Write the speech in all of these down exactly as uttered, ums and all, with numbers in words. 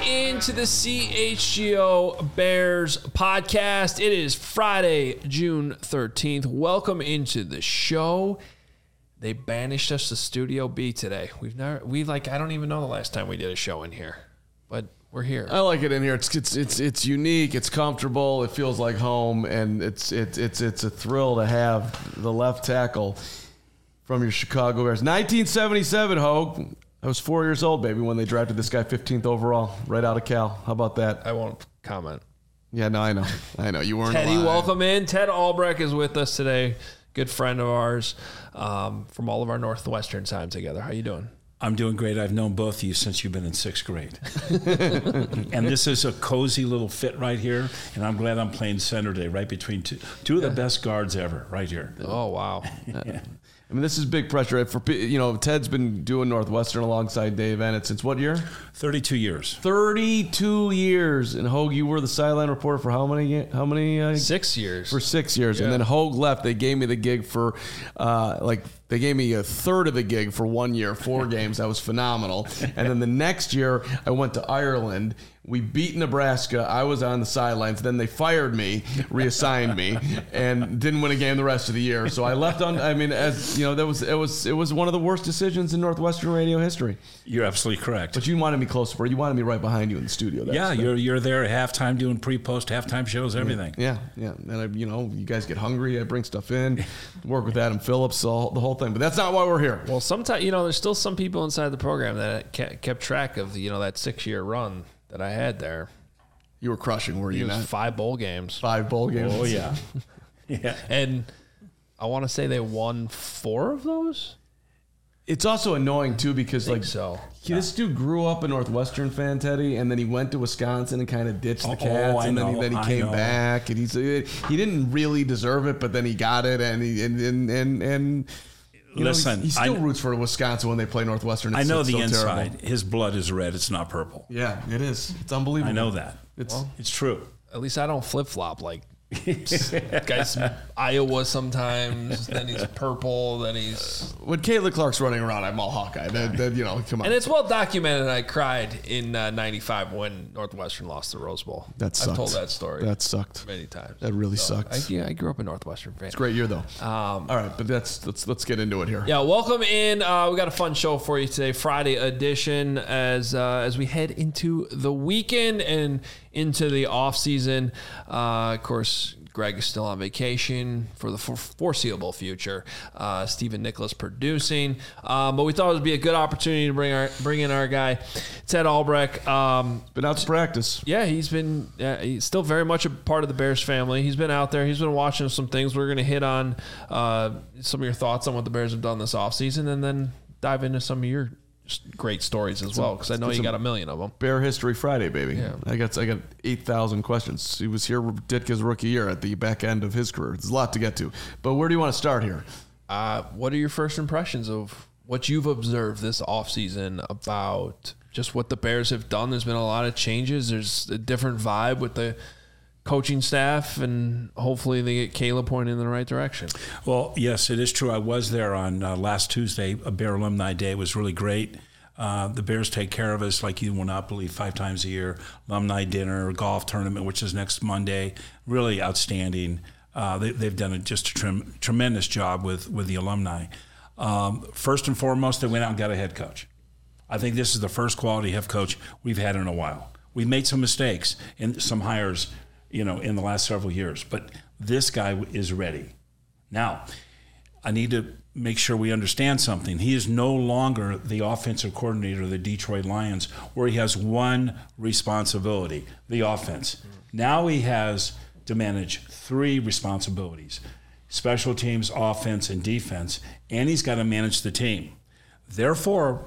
into the C H G O Bears podcast. It is Friday, June thirteenth. Welcome into the show. They banished us to Studio B today. We've never, we like, I don't even know the last time we did a show in here, but we're here. I like it in here. It's it's it's it's unique. It's comfortable. It feels like home, and it's it's it's it's a thrill to have the left tackle from your Chicago Bears. nineteen seventy-seven, Hogue. I was four years old, baby, when they drafted this guy fifteenth overall, right out of Cal. How about that? I won't comment. Yeah, no, I know. I know. You weren't Teddy, alive. welcome in. Ted Albrecht is with us today. Good friend of ours um, from all of our Northwestern time together. How you doing? I'm doing great. I've known both of you since you've been in sixth grade. And this is a cozy little fit right here, and I'm glad I'm playing center today, right between two, two of the best guards ever, right here. Oh, wow. Yeah. I mean, this is big pressure. For you know, Ted's been doing Northwestern alongside Dave Ennett since what year? thirty-two years. thirty-two years. And Hogue, you were the sideline reporter for how many? How many? Uh, Six years. For six years. Yeah. And then Hogue left. They gave me the gig for, uh, like, they gave me a third of the gig for one year, four games. That was phenomenal. And then the next year, I went to Ireland. We beat Nebraska. I was on the sidelines. Then they fired me, reassigned me, and didn't win a game the rest of the year. So I left on. I mean, as you know, that was it was it was one of the worst decisions in Northwestern radio history. You're absolutely correct. But you wanted me close, bro. You wanted me right behind you in the studio. That's yeah, the, you're you're there at halftime doing pre-post, halftime shows, everything. Yeah, yeah. And I, you know, you guys get hungry. I bring stuff in, work with Adam Phillips, all, the whole thing. But that's not why we're here. Well, sometimes, you know, there's still some people inside the program that kept track of, you know, that six-year run that I had there. You were crushing, were you It was not? five bowl games. Five bowl games. Oh, yeah. Yeah. And I want to say they won four of those? It's also annoying, too, because, I think like, so. he, this dude grew up a Northwestern fan, Teddy, and then he went to Wisconsin and kind of ditched the Oh, Cats, I and then he, know, then he I came know. back, and he's he didn't really deserve it, but then he got it, and he, and and and, and you Listen, know, he, he still I, roots for Wisconsin when they play Northwestern. It's, I know it's the so inside. terrible. His blood is red. It's not purple. Yeah, it is. It's unbelievable. I know that. It's Well, It's true. At least I don't flip-flop like guys from Iowa sometimes. Then he's purple. Then he's... when Caitlin Clark's running around, I'm all Hawkeye. Then, then you know, come on. And it's well documented. I cried in uh, ninety-five when Northwestern lost the Rose Bowl. That sucked. I've told that story. That sucked. many times. That really So, sucked. I, yeah, I grew up a Northwestern fan. It's a great year, though. Um, all right, but that's let's let's get into it here. Yeah, welcome in. Uh, we got a fun show for you today, Friday edition, as uh, as we head into the weekend and into the off season. Uh, of course, Greg is still on vacation for the foreseeable future. Uh, Stephen Nicholas producing, um, but we thought it would be a good opportunity to bring our bring in our guy, Ted Albrecht. Um, Been out to practice. Yeah, he's been uh, he's still very much a part of the Bears family. He's been out there. He's been watching some things. We're going to hit on uh, some of your thoughts on what the Bears have done this offseason and then dive into some of your great stories as well, because I know you got a million of them. Bear History Friday, baby. Yeah. I got I got eight thousand questions. He was here Ditka's rookie year at the back end of his career. There's a lot to get to. But where do you want to start here? Uh, what are your first impressions of what you've observed this offseason about just what the Bears have done? There's been a lot of changes. There's a different vibe with the coaching staff, and hopefully they get Caleb pointing in the right direction. Well, yes, it is true. I was there on uh, last Tuesday, a Bear Alumni Day. It was really great. Uh, the Bears take care of us like you will not believe, five times a year. Alumni dinner, golf tournament, which is next Monday. Really outstanding. Uh, they, they've done a, just a trem- tremendous job with, with the alumni. Um, first and foremost, they went out and got a head coach. I think this is the first quality head coach we've had in a while. We've made some mistakes in some hires, you know, in the last several years, but this guy is ready. Now, I need to make sure we understand something. He is no longer the offensive coordinator of the Detroit Lions, where he has one responsibility, the offense. Now he has to manage three responsibilities: special teams, offense, and defense, and he's got to manage the team. Therefore,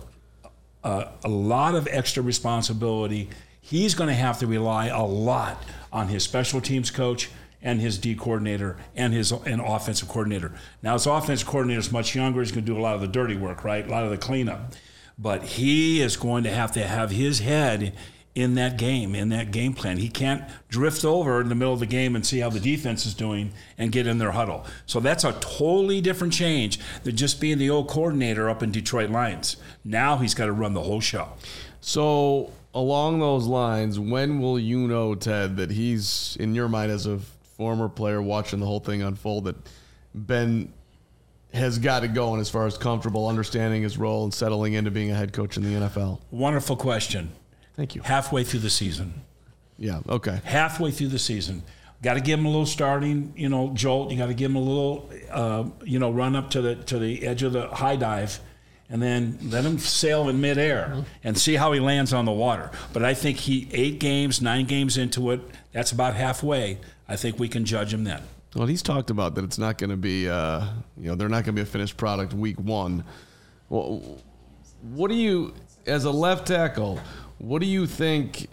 uh, a lot of extra responsibility. He's going to have to rely a lot on his special teams coach and his D coordinator and his and offensive coordinator. Now, his offensive coordinator is much younger. He's going to do a lot of the dirty work, right? A lot of the cleanup. But he is going to have to have his head in that game, in that game plan. He can't drift over in the middle of the game and see how the defense is doing and get in their huddle. So that's a totally different change than just being the old coordinator up in Detroit Lions. Now he's got to run the whole show. So along those lines, when will you know, Ted, that he's, in your mind as a former player watching the whole thing unfold, that Ben has got it going as far as comfortable understanding his role and settling into being a head coach in the N F L? Wonderful question. Thank you. Halfway through the season. Yeah, okay. Halfway through the season. Got to give him a little starting, you know, jolt. You got to give him a little, uh, you know, run up to the to the edge of the high dive, and then let him sail in midair mm-hmm. and see how he lands on the water. But I think he eight games, nine games into it. That's about halfway. I think we can judge him then. Well, he's talked about that it's not going to be, uh, you know, they're not going to be a finished product week one. Well, what do you, as a left tackle, what do you think?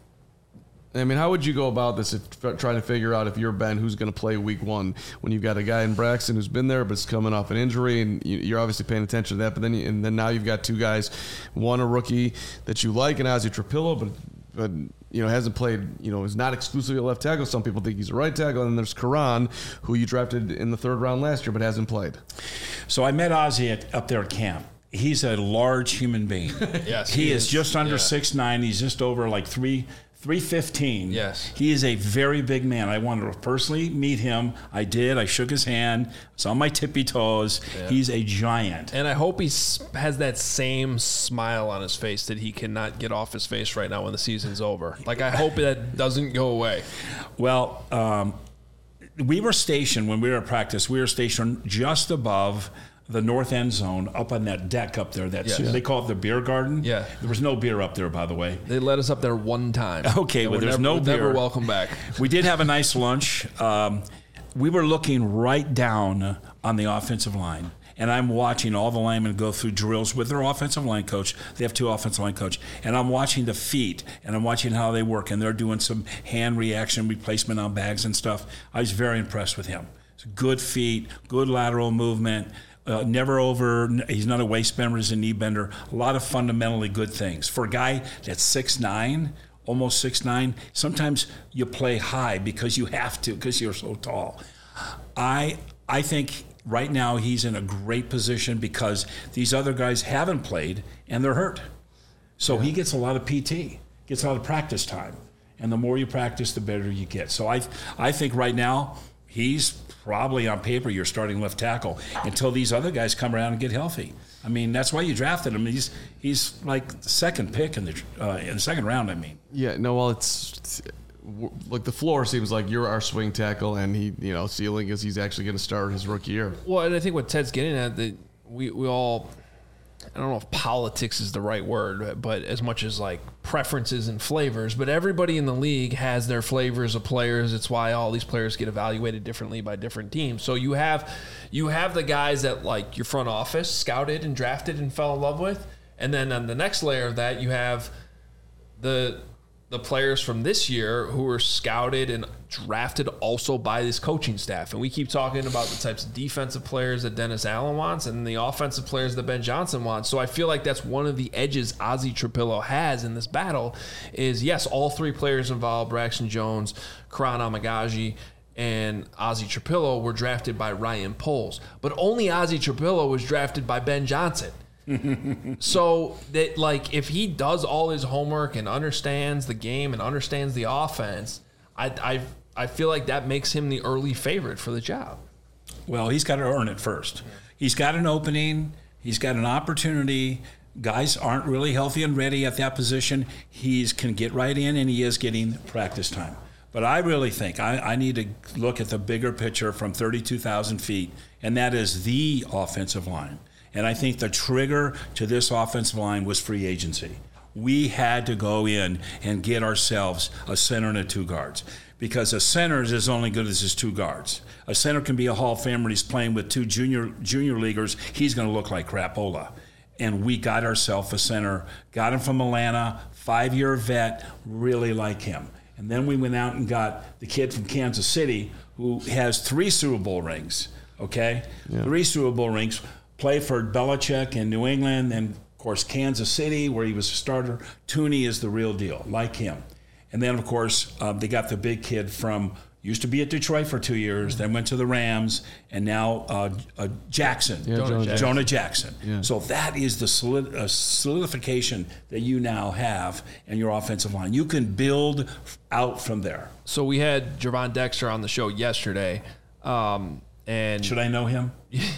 I mean, how would you go about this if trying to figure out if you're Ben, who's going to play week one when you've got a guy in Braxton who's been there but is coming off an injury, and you're obviously paying attention to that. But then, you, and then now you've got two guys, one a rookie that you like, and Ozzie Trapillo, but but you know hasn't played. You know, is not exclusively a left tackle. Some people think he's a right tackle, and then there's Karan, who you drafted in the third round last year but hasn't played. So I met Ozzie at, up there at camp. He's a large human being. Yes, he, he is, is just under yeah. six nine. He's just over like three. three fifteen. Yes. He is a very big man. I wanted to personally meet him. I did. I shook his hand. It's on my tippy toes. Yeah. He's a giant. And I hope he has that same smile on his face that he cannot get off his face right now when the season's over. Like, I hope that doesn't go away. Well, um, we were stationed, when we were at practice, we were stationed just above the north end zone, up on that deck up there. That yeah. They call it the beer garden. Yeah. There was no beer up there, by the way. They let us up there one time. Okay, well, there's never, no beer. Never welcome back. We did have a nice lunch. Um, we were looking right down on the offensive line, and I'm watching all the linemen go through drills with their offensive line coach. They have two offensive line coach, and I'm watching the feet, and I'm watching how they work, and they're doing some hand reaction replacement on bags and stuff. I was very impressed with him. Good feet, good lateral movement. Uh, never over, he's not a waist bender, he's a knee bender. A lot of fundamentally good things. For a guy that's six nine, almost six nine, sometimes you play high because you have to, because you're so tall. I I think right now he's in a great position because these other guys haven't played and they're hurt. So yeah. he gets a lot of P T, gets a lot of practice time. And the more you practice, the better you get. So I I think right now he's probably on paper your starting left tackle until these other guys come around and get healthy. I mean, that's why you drafted him. He's he's like the second pick in the uh, in the second round. I mean. Yeah. No. Well, it's, it's like the floor seems like you're our swing tackle, and he, you know, ceiling is he's actually going to start his rookie year. Well, and I think what Ted's getting at, that we we all. I don't know if politics is the right word, but as much as like preferences and flavors, but everybody in the league has their flavors of players. It's why all these players get evaluated differently by different teams. So you have, you have the guys that like your front office scouted and drafted and fell in love with. And then on the next layer of that, you have the, the players from this year who were scouted and drafted also by this coaching staff. And we keep talking about the types of defensive players that Dennis Allen wants and the offensive players that Ben Johnson wants. So I feel like that's one of the edges Ozzie Trapillo has in this battle is, yes, all three players involved, Braxton Jones, Karan Amagaji, and Ozzie Trapillo were drafted by Ryan Poles. But only Ozzie Trapillo was drafted by Ben Johnson. So that, like, if he does all his homework and understands the game and understands the offense, I I I feel like that makes him the early favorite for the job. Well, he's got to earn it first. He's got an opening. He's got an opportunity. Guys aren't really healthy and ready at that position. He can get right in, and he is getting practice time. But I really think I, I need to look at the bigger picture from thirty-two thousand feet, and that is the offensive line. And I think the trigger to this offensive line was free agency. We had to go in and get ourselves a center and a two guards, because a center is only good as his two guards. A center can be a Hall of Famer. He's playing with two junior junior leaguers. He's going to look like crapola. And we got ourselves a center, got him from Atlanta, five-year vet, really like him. And then we went out and got the kid from Kansas City who has three Super Bowl rings, okay? Yeah. Three Super Bowl rings. Played for Belichick in New England, and of course Kansas City, where he was a starter. Tooney is the real deal, like him. And then, of course, uh, they got the big kid from Used to be at Detroit for two years, then went to the Rams, and now uh, uh, Jackson, Yeah, Jonah Jonah Jackson. Jonah Jackson. Yeah. So that is the solid, uh, solidification that you now have in your offensive line. You can build out from there. So we had Javon Dexter on the show yesterday. Um, and Should I know him?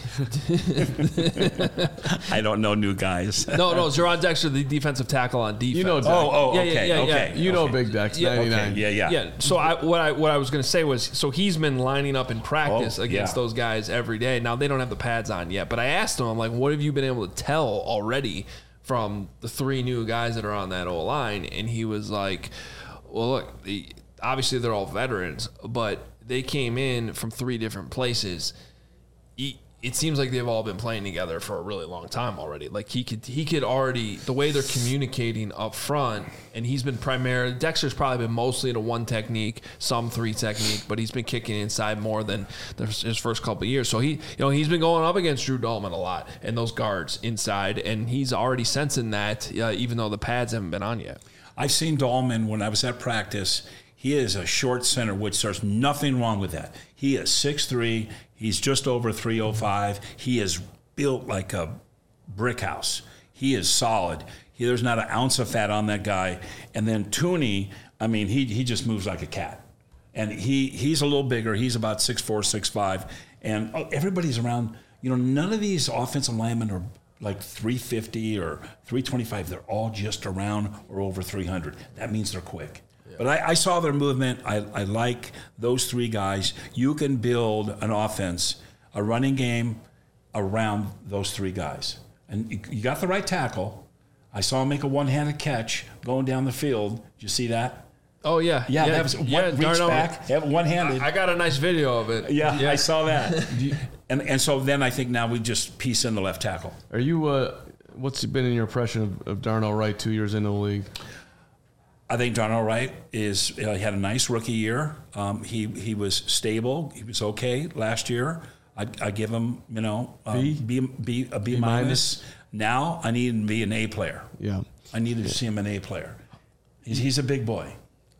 I don't know new guys. no, no, Javon Dexter, the defensive tackle on defense. You know, Dex. Oh, oh, Yeah, okay, yeah, yeah, okay. yeah. you know, okay. Big Dex, Yeah, okay, ninety-nine. Yeah, yeah. Yeah. So I, what I what I was going to say was, so he's been lining up in practice Oh, against yeah. those guys every day. Now they don't have the pads on yet, but I asked him, I'm like, what have you been able to tell already from the three new guys that are on that O line? And he was like, well, look, the, obviously they're all veterans, but they came in from three different places. He, it seems like they've all been playing together for a really long time already. Like he could, he could already, the way they're communicating up front, and he's been primarily, Dexter's probably been mostly to one technique, some three technique, but he's been kicking inside more than the, his first couple of years. So he, you know, he's been going up against Drew Dalman a lot and those guards inside, and he's already sensing that, uh, even though the pads haven't been on yet. I've seen Dahlman when I was at practice. He is a short center, which there's nothing wrong with that. He is six three. He's just over three oh five. He is built like a brick house. He is solid. He, there's not an ounce of fat on that guy. And then Tooney, I mean, he he just moves like a cat. And he he's a little bigger. He's about six four, six five. And everybody's around. You know, none of these offensive linemen are like three fifty or three twenty-five. They're all just around or over three hundred. That means they're quick. But I, I saw their movement. I, I like those three guys. You can build an offense, a running game around those three guys. And you, you got the right tackle. I saw him make a one-handed catch going down the field. Did you see that? Oh, yeah. Yeah, that was one, reach Darnell, back, yeah, one-handed. I, I got a nice video of it. yeah, I saw that. and and so then I think now we just piece in the left tackle. Are you? Uh, what's been in your impression of, of Darnell Wright two years into the league? I think Darnell Wright is uh, he had a nice rookie year. Um, he he was stable. He was okay last year. I, I give him you know um, B? B, B a B, B minus. minus. Now I need him to be an A player. Yeah. I needed to see him an A player. He's he's a big boy.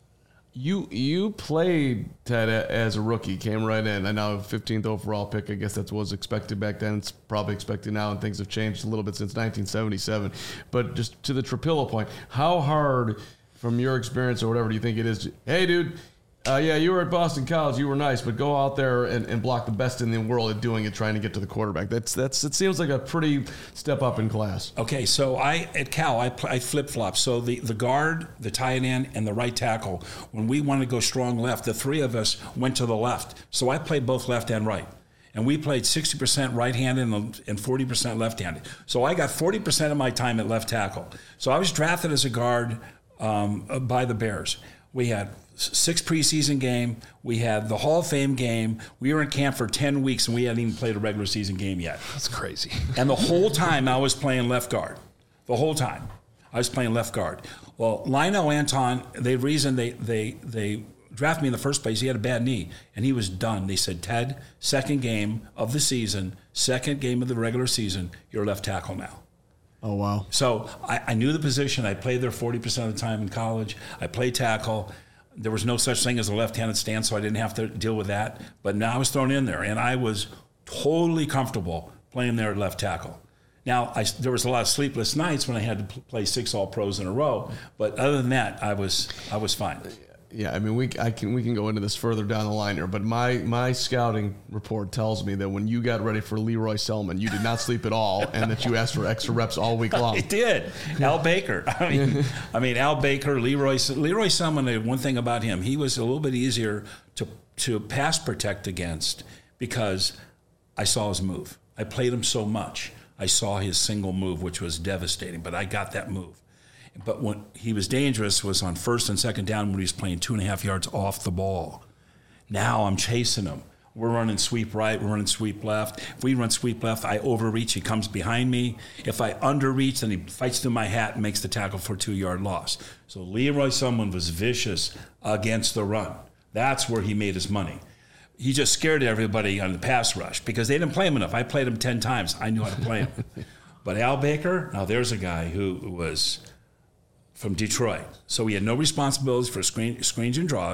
You you played Ted a- as a rookie, came right in. I know fifteenth overall pick. I guess that was expected back then. It's probably expected now, and things have changed a little bit since nineteen seventy-seven. But just to the Trapillo point, how hard, from your experience or whatever, do you think it is? To, hey, dude, uh, yeah, you were at Boston College, you were nice, but go out there and, and block the best in the world at doing it, trying to get to the quarterback. That's that's. It seems like a pretty step up in class. Okay, so I at Cal I, pl- I flip flop. So the, the guard, the tight end, and the right tackle. When we wanted to go strong left, the three of us went to the left. So I played both left and right, and we played sixty percent right-handed and and forty percent left-handed. So I got forty percent of my time at left tackle. So I was drafted as a guard um, by the Bears. We had six preseason game. We had the Hall of Fame game. We were in camp for ten weeks, and we hadn't even played a regular season game yet. That's crazy. And the whole time I was playing left guard. The whole time I was playing left guard. Well, Lionel Anton, the reason they they they drafted me in the first place, he had a bad knee, and he was done. They said, Ted, second game of the season, second game of the regular season, you're left tackle now. Oh, wow. So I, I knew the position. I played there forty percent of the time in college. I played tackle. There was no such thing as a left-handed stance, so I didn't have to deal with that. But now I was thrown in there, and I was totally comfortable playing there at left tackle. Now, I, there was a lot of sleepless nights when I had to play six All-Pros in a row, but other than that, I was I was fine. Yeah, I mean, we I can we can go into this further down the line here, but my my scouting report tells me that when you got ready for Leroy Selman, you did not sleep at all, and that you asked for extra reps all week long. I did. Al Baker. I mean, I mean Al Baker, Leroy Leroy Selman. One thing about him, he was a little bit easier to to pass protect against because I saw his move. I played him so much. I saw his single move, which was devastating, but I got that move. But when he was dangerous was on first and second down when he was playing two and a half yards off the ball. Now I'm chasing him. We're running sweep right, we're running sweep left. If we run sweep left, I overreach, he comes behind me. If I underreach, then he fights through my hat and makes the tackle for a two-yard loss. So Leroy Selman was vicious against the run. That's where he made his money. He just scared everybody on the pass rush because they didn't play him enough. I played him ten times. I knew how to play him. But Al Baker, now there's a guy who was from Detroit. So he had no responsibilities for screen, screens and draws,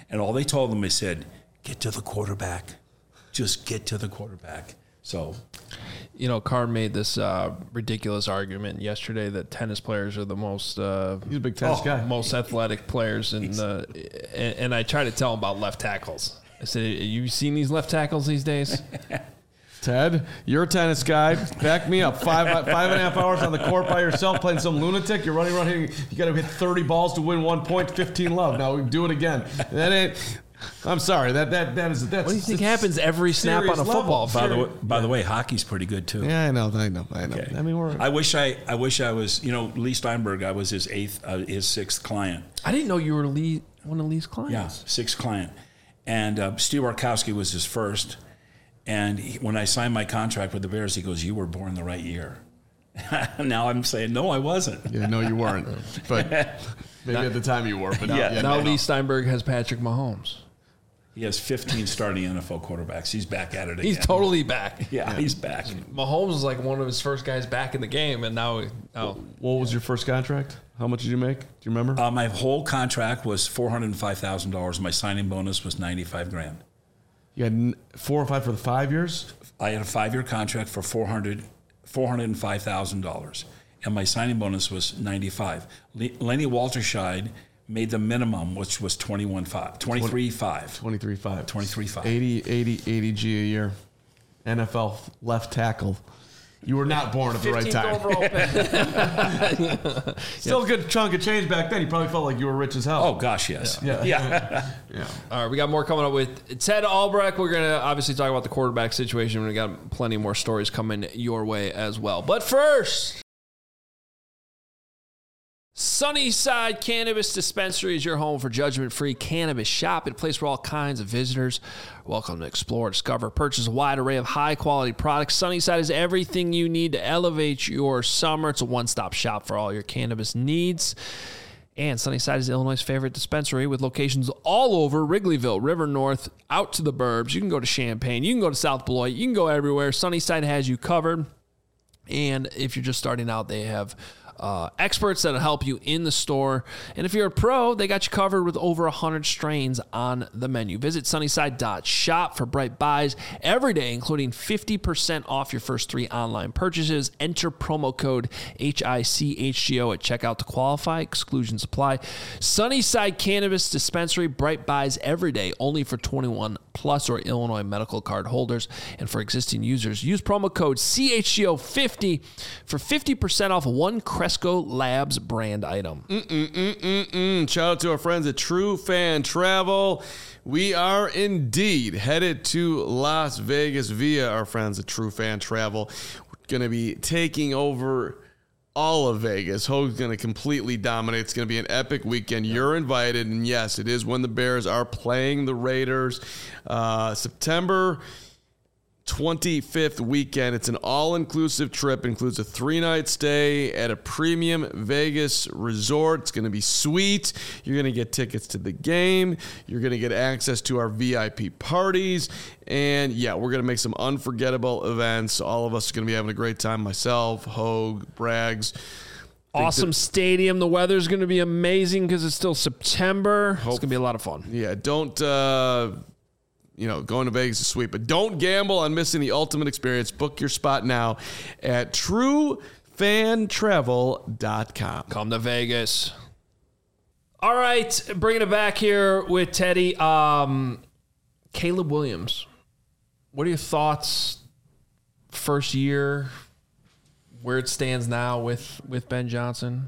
And all they told them, they said, get to the quarterback. Just get to the quarterback. So, you know, Carr made this uh, ridiculous argument yesterday that tennis players are the most uh, He's a big tennis Oh, guy. most athletic players, in the, and, and I tried to tell him about left tackles. I said, "You seen these left tackles these days?" Ted, you're a tennis guy. Back me up. Five five and a half hours on the court by yourself playing some lunatic. You're running around here. You got to hit thirty balls to win one point, fifteen love. Now we do it again. That ain't. I'm sorry. That that that is that's. What do you think happens every snap on a serious football level. by the field? way, by the way, hockey's pretty good too. Yeah, I know. I know. I know. Okay. I mean, we're. I wish I, I wish I was, you know, Lee Steinberg. I was his eighth, uh, his sixth client. I didn't know you were Lee, one of Lee's clients. Yeah, sixth client, and uh, Steve Arkowski was his first. And he, when I signed my contract with the Bears, he goes, "You were born the right year." Now I'm saying, no, I wasn't. Yeah, no, you weren't. But maybe at the time you were. But now, Yeah. yeah, Now no, Lee no. Steinberg has Patrick Mahomes. He has fifteen starting N F L quarterbacks. He's back at it again. He's totally back. Yeah, he's back. Mahomes was like one of his first guys back in the game, and now, oh, What was your first contract? How much did you make? Do you remember? Uh, my whole contract was four hundred five thousand dollars. My signing bonus was ninety-five grand. You had n- four or five for the five years. I had a five-year contract for four hundred, four hundred five thousand dollars, and my signing bonus was ninety-five. Le- Lenny Walterscheid made the minimum, which was twenty-one five, twenty-three five. twenty-three five. twenty-three five. eighty, eighty, eighty G a year. N F L left tackle. You were not born at the right time. overall pick. Still a good chunk of change back then. You probably felt like you were rich as hell. Oh, gosh, yes. Yeah. Yeah. yeah. All right, we got more coming up with Ted Albrecht. We're going to obviously talk about the quarterback situation. We got plenty more stories coming your way as well. But first, Sunnyside Cannabis Dispensary is your home for judgment-free cannabis shop. It's a place where all kinds of visitors are welcome to explore, discover, purchase a wide array of high-quality products. Sunnyside is everything you need to elevate your summer. It's a one-stop shop for all your cannabis needs. And Sunnyside is Illinois' favorite dispensary with locations all over Wrigleyville, River North, out to the burbs. You can go to Champaign. You can go to South Beloit. You can go everywhere. Sunnyside has you covered. And if you're just starting out, they have uh, experts that'll help you in the store. And if you're a pro, they got you covered with over one hundred strains on the menu. Visit sunnyside dot shop for bright buys every day, including fifty percent off your first three online purchases. Enter promo code H I C H G O at checkout to qualify. Exclusions apply. Sunnyside Cannabis Dispensary, bright buys every day, only for twenty-one plus or Illinois medical card holders. And for existing users, use promo code C H G O fifty for fifty percent off one Cresco Labs brand item. Mm-mm-mm-mm. Shout out to our friends at True Fan Travel. We are indeed headed to Las Vegas via our friends at True Fan Travel. We're going to be taking over all of Vegas. Hoag's going to completely dominate. It's going to be an epic weekend. You're invited. And yes, it is when the Bears are playing the Raiders. Uh, September twenty-fifth weekend. It's an all-inclusive trip. It includes a three-night stay at a premium Vegas resort. It's going to be sweet. You're going to get tickets to the game. You're going to get access to our V I P parties. And, yeah, we're going to make some unforgettable events. All of us are going to be having a great time. Myself, Hoag, Braggs. Awesome stadium. The weather's going to be amazing because it's still September. It's going to be a lot of fun. Yeah, don't... Uh, You know, going to Vegas is sweet, but don't gamble on missing the ultimate experience. Book your spot now at true fan travel dot com. Come to Vegas. All right, bringing it back here with Teddy. Um, Caleb Williams, what are your thoughts? First year, where it stands now with, with Ben Johnson?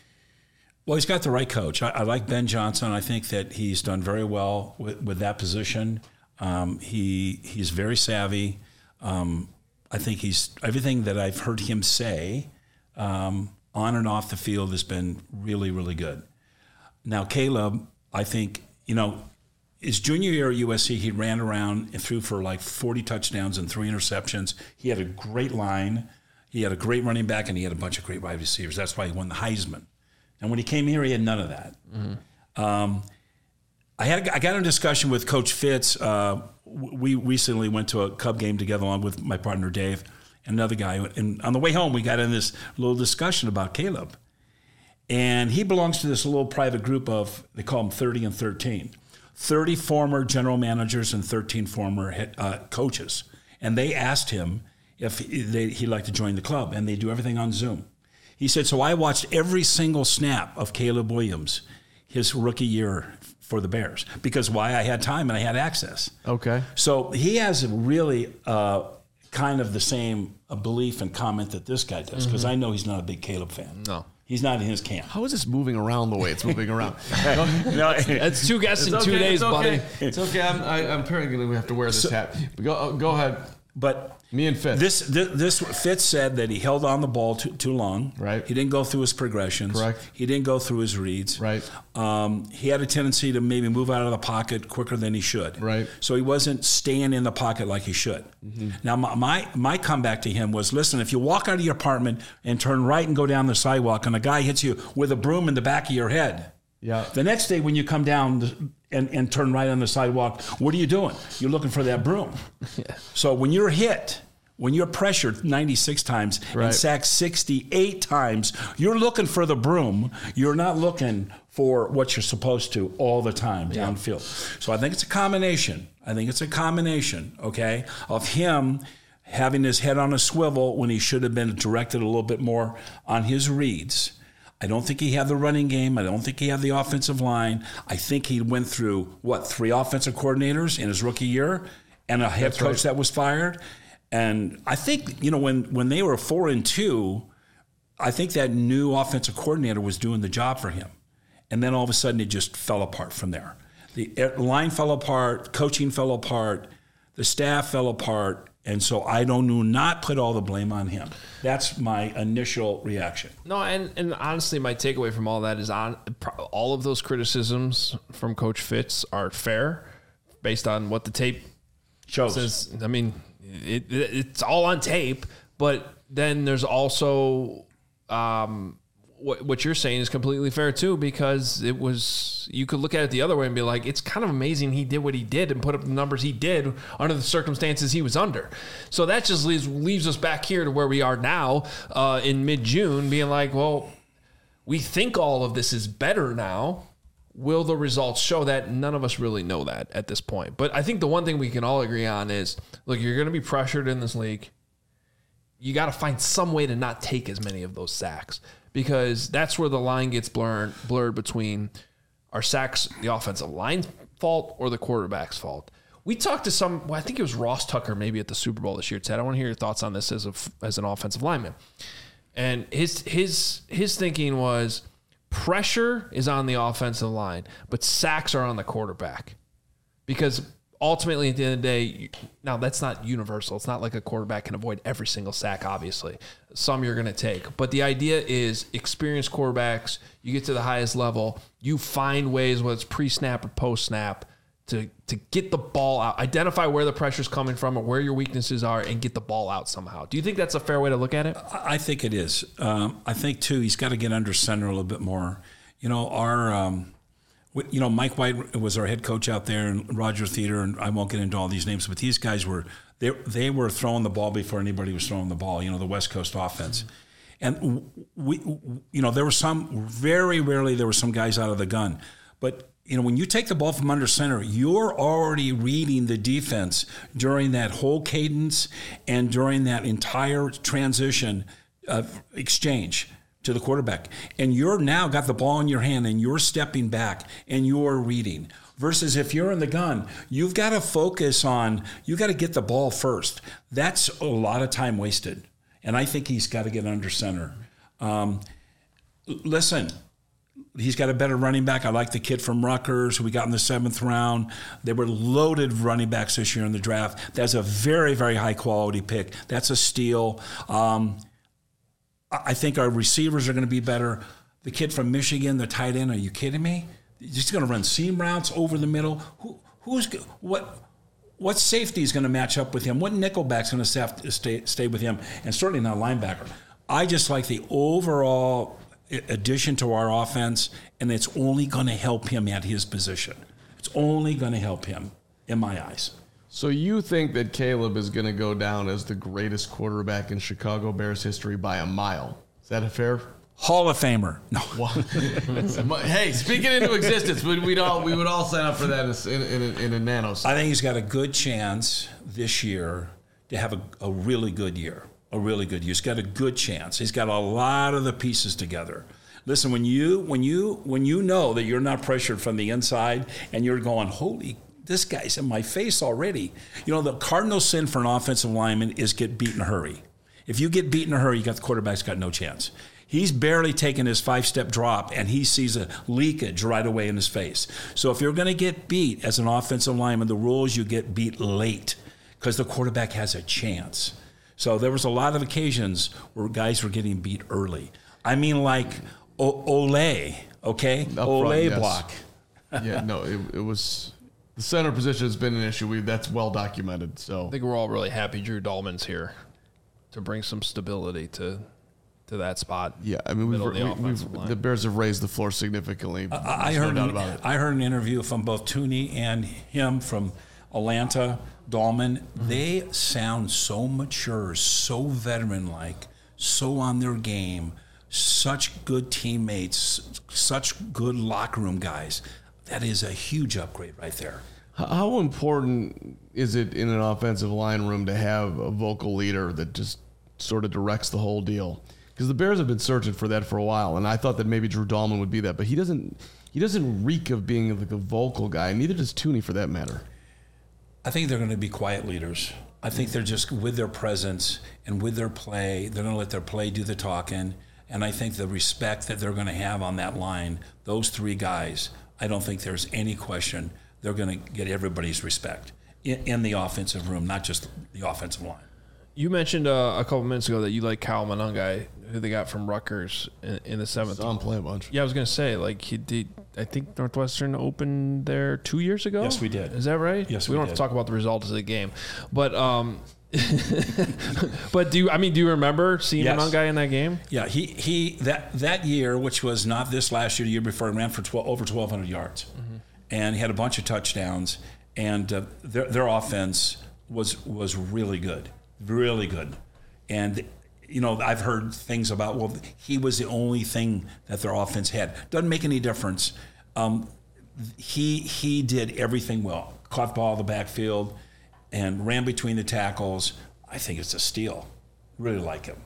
Well, he's got the right coach. I, I like Ben Johnson. I think that he's done very well with, with that position. Um, he he's very savvy. Um, I think he's everything that I've heard him say um, on and off the field has been really, really good. Now, Caleb, I think, you know, his junior year at U S C, he ran around and threw for like forty touchdowns and three interceptions. He had a great line. He had a great running back, and he had a bunch of great wide receivers. That's why he won the Heisman. And when he came here, he had none of that. Mm-hmm. Um, I had I got in a discussion with Coach Fitz. Uh, we recently went to a Cub game together along with my partner Dave and another guy. And on the way home, we got in this little discussion about Caleb. And he belongs to this little private group of, they call them thirty and thirteen. thirty former general managers and thirteen former head, uh, coaches. And they asked him if he, they, he'd like to join the club, and they do everything on Zoom. He said, so I watched every single snap of Caleb Williams his rookie year for the Bears. Because why? I had time and I had access. Okay. So he has really uh, kind of the same uh, belief and comment that this guy does, because mm-hmm. I know he's not a big Caleb fan. No. He's not in his camp. How is this moving around the way it's moving around? no, it's two guests in okay, two days, it's okay. buddy. It's okay. I'm, I, I'm apparently going to have to wear this so, hat. Go, go ahead. But me and Fitz. This, this this Fitz said that he held on the ball too, too long. Right. He didn't go through his progressions. Correct. He didn't go through his reads. Right. Um, he had a tendency to maybe move out of the pocket quicker than he should. Right. So he wasn't staying in the pocket like he should. Mm-hmm. Now my, my my comeback to him was, listen, if you walk out of your apartment and turn right and go down the sidewalk, and a guy hits you with a broom in the back of your head. Yeah. The next day when you come down the, and, and turn right on the sidewalk, what are you doing? You're looking for that broom. Yeah. So when you're hit, when you're pressured ninety-six times right. and sacked sixty-eight times, you're looking for the broom. You're not looking for what you're supposed to all the time yeah. downfield. So I think it's a combination. I think it's a combination, okay, of him having his head on a swivel when he should have been directed a little bit more on his reads. I don't think he had the running game. I don't think he had the offensive line. I think he went through, what, three offensive coordinators in his rookie year and a head That's coach right. that was fired. And I think, you know, when, when they were four and two, I think that new offensive coordinator was doing the job for him. And then all of a sudden it just fell apart from there. The line fell apart, coaching fell apart, the staff fell apart. And so I don't do not put all the blame on him. That's my initial reaction. No, and, and honestly, my takeaway from all that is on all of those criticisms from Coach Fitz are fair based on what the tape shows. Says. I mean, it, it, it's all on tape, but then there's also um, what, what you're saying is completely fair too, because it was, you could look at it the other way and be like, it's kind of amazing he did what he did and put up the numbers he did under the circumstances he was under. So that just leaves leaves us back here to where we are now uh, in mid-June, being like, well, we think all of this is better now. Will the results show that? None of us really know that at this point. But I think the one thing we can all agree on is, look, you're going to be pressured in this league. You got to find some way to not take as many of those sacks, because that's where the line gets blurred, blurred between our sacks, the offensive line's fault or the quarterback's fault. We talked to some, well, I think it was Ross Tucker maybe at the Super Bowl this year, Ted. I want to hear your thoughts on this as a, as an offensive lineman. And his his his thinking was, pressure is on the offensive line, but sacks are on the quarterback. Because ultimately, at the end of the day, now that's not universal. It's not like a quarterback can avoid every single sack, obviously. Some you're going to take. But the idea is experienced quarterbacks, you get to the highest level, you find ways, whether it's pre-snap or post-snap, to, to get the ball out, identify where the pressure's coming from or where your weaknesses are, and get the ball out somehow. Do you think that's a fair way to look at it? I think it is. Um, I think, too, he's got to get under center a little bit more. You know, our... Um, You know, Mike White was our head coach out there, and Roger Theater, and I won't get into all these names, but these guys were they they were throwing the ball before anybody was throwing the ball. You know, the West Coast offense, and we, you know, there were some very rarely there were some guys out of the gun, but you know, when you take the ball from under center, you're already reading the defense during that whole cadence and during that entire transition uh, exchange to the quarterback. And you're now got the ball in your hand and you're stepping back and you're reading. Versus if you're in the gun, you've got to focus on, you've got to get the ball first. That's a lot of time wasted. And I think he's got to get under center. Um, listen, he's got a better running back. I like the kid from Rutgers who we got in the seventh round. They were loaded running backs this year in the draft. That's a very, very high quality pick. That's a steal. Um, I think our receivers are going to be better. The kid from Michigan, the tight end, are you kidding me? He's going to run seam routes over the middle. Who, who's what? What safety is going to match up with him? What nickelback's going to stay stay with him? And certainly not a linebacker. I just like the overall addition to our offense, and it's only going to help him at his position. It's only going to help him, in my eyes. So you think that Caleb is going to go down as the greatest quarterback in Chicago Bears history by a mile? Is that a fair Hall of Famer. No. Hey, speak it into existence. We'd, we'd all we would all sign up for that in, in, in, in a nanosecond. I think he's got a good chance this year to have a, a really good year. A really good year. He's got a good chance. He's got a lot of the pieces together. Listen, when you when you when you know that you're not pressured from the inside and you're going, holy, this guy's in my face already. You know, the cardinal sin for an offensive lineman is get beat in a hurry. If you get beat in a hurry, you got the quarterback's got no chance. He's barely taken his five-step drop, and he sees a leakage right away in his face. So if you're going to get beat as an offensive lineman, the rule is you get beat late because the quarterback has a chance. So there was a lot of occasions where guys were getting beat early. I mean, like o- Ole, okay? Up Ole front, yes. block. Yeah, no, it, it was the center position has been an issue. We that's well documented. So I think we're all really happy Drew Dahlman's here to bring some stability to to that spot. yeah, I mean we've, Middle of the we, offensive we've line. the Bears have raised the floor significantly. I There's heard, no doubt an, about it. I heard an interview from both Tooney and him from Atlanta, Dahlman. Mm-hmm. They sound so mature, so veteran-like, so on their game, such good teammates, such good locker room guys. That is a huge upgrade right there. How important is it in an offensive line room to have a vocal leader that just sort of directs the whole deal? Because the Bears have been searching for that for a while, and I thought that maybe Drew Dahlman would be that, but he doesn't. He doesn't reek of being like a vocal guy. Neither does Tooney, for that matter. I think they're going to be quiet leaders. I think they're just with their presence and with their play, they're going to let their play do the talking. And I think the respect that they're going to have on that line, those three guys, I don't think there's any question they're going to get everybody's respect in, in the offensive room, not just the offensive line. You mentioned uh, a couple minutes ago that you like Kyle Monangai, who they got from Rutgers in, in the seventh. Saw him play a bunch. Yeah, I was gonna say, like he did. I think Northwestern opened there two years ago. Yes, we did. Is that right? Yes, we, we don't did. have to talk about the results of the game, but um, but do you, I mean, do you remember seeing Yes. Monangai in that game? Yeah, he he that that year, which was not this last year, the year before, he ran for twelve, over twelve hundred yards, mm-hmm. and he had a bunch of touchdowns, and uh, their their offense was was really good, really good, and. You know, I've heard things about, well, he was the only thing that their offense had. Doesn't make any difference. Um, he he did everything well. Caught the ball in the backfield and ran between the tackles. I think it's a steal. Really like him.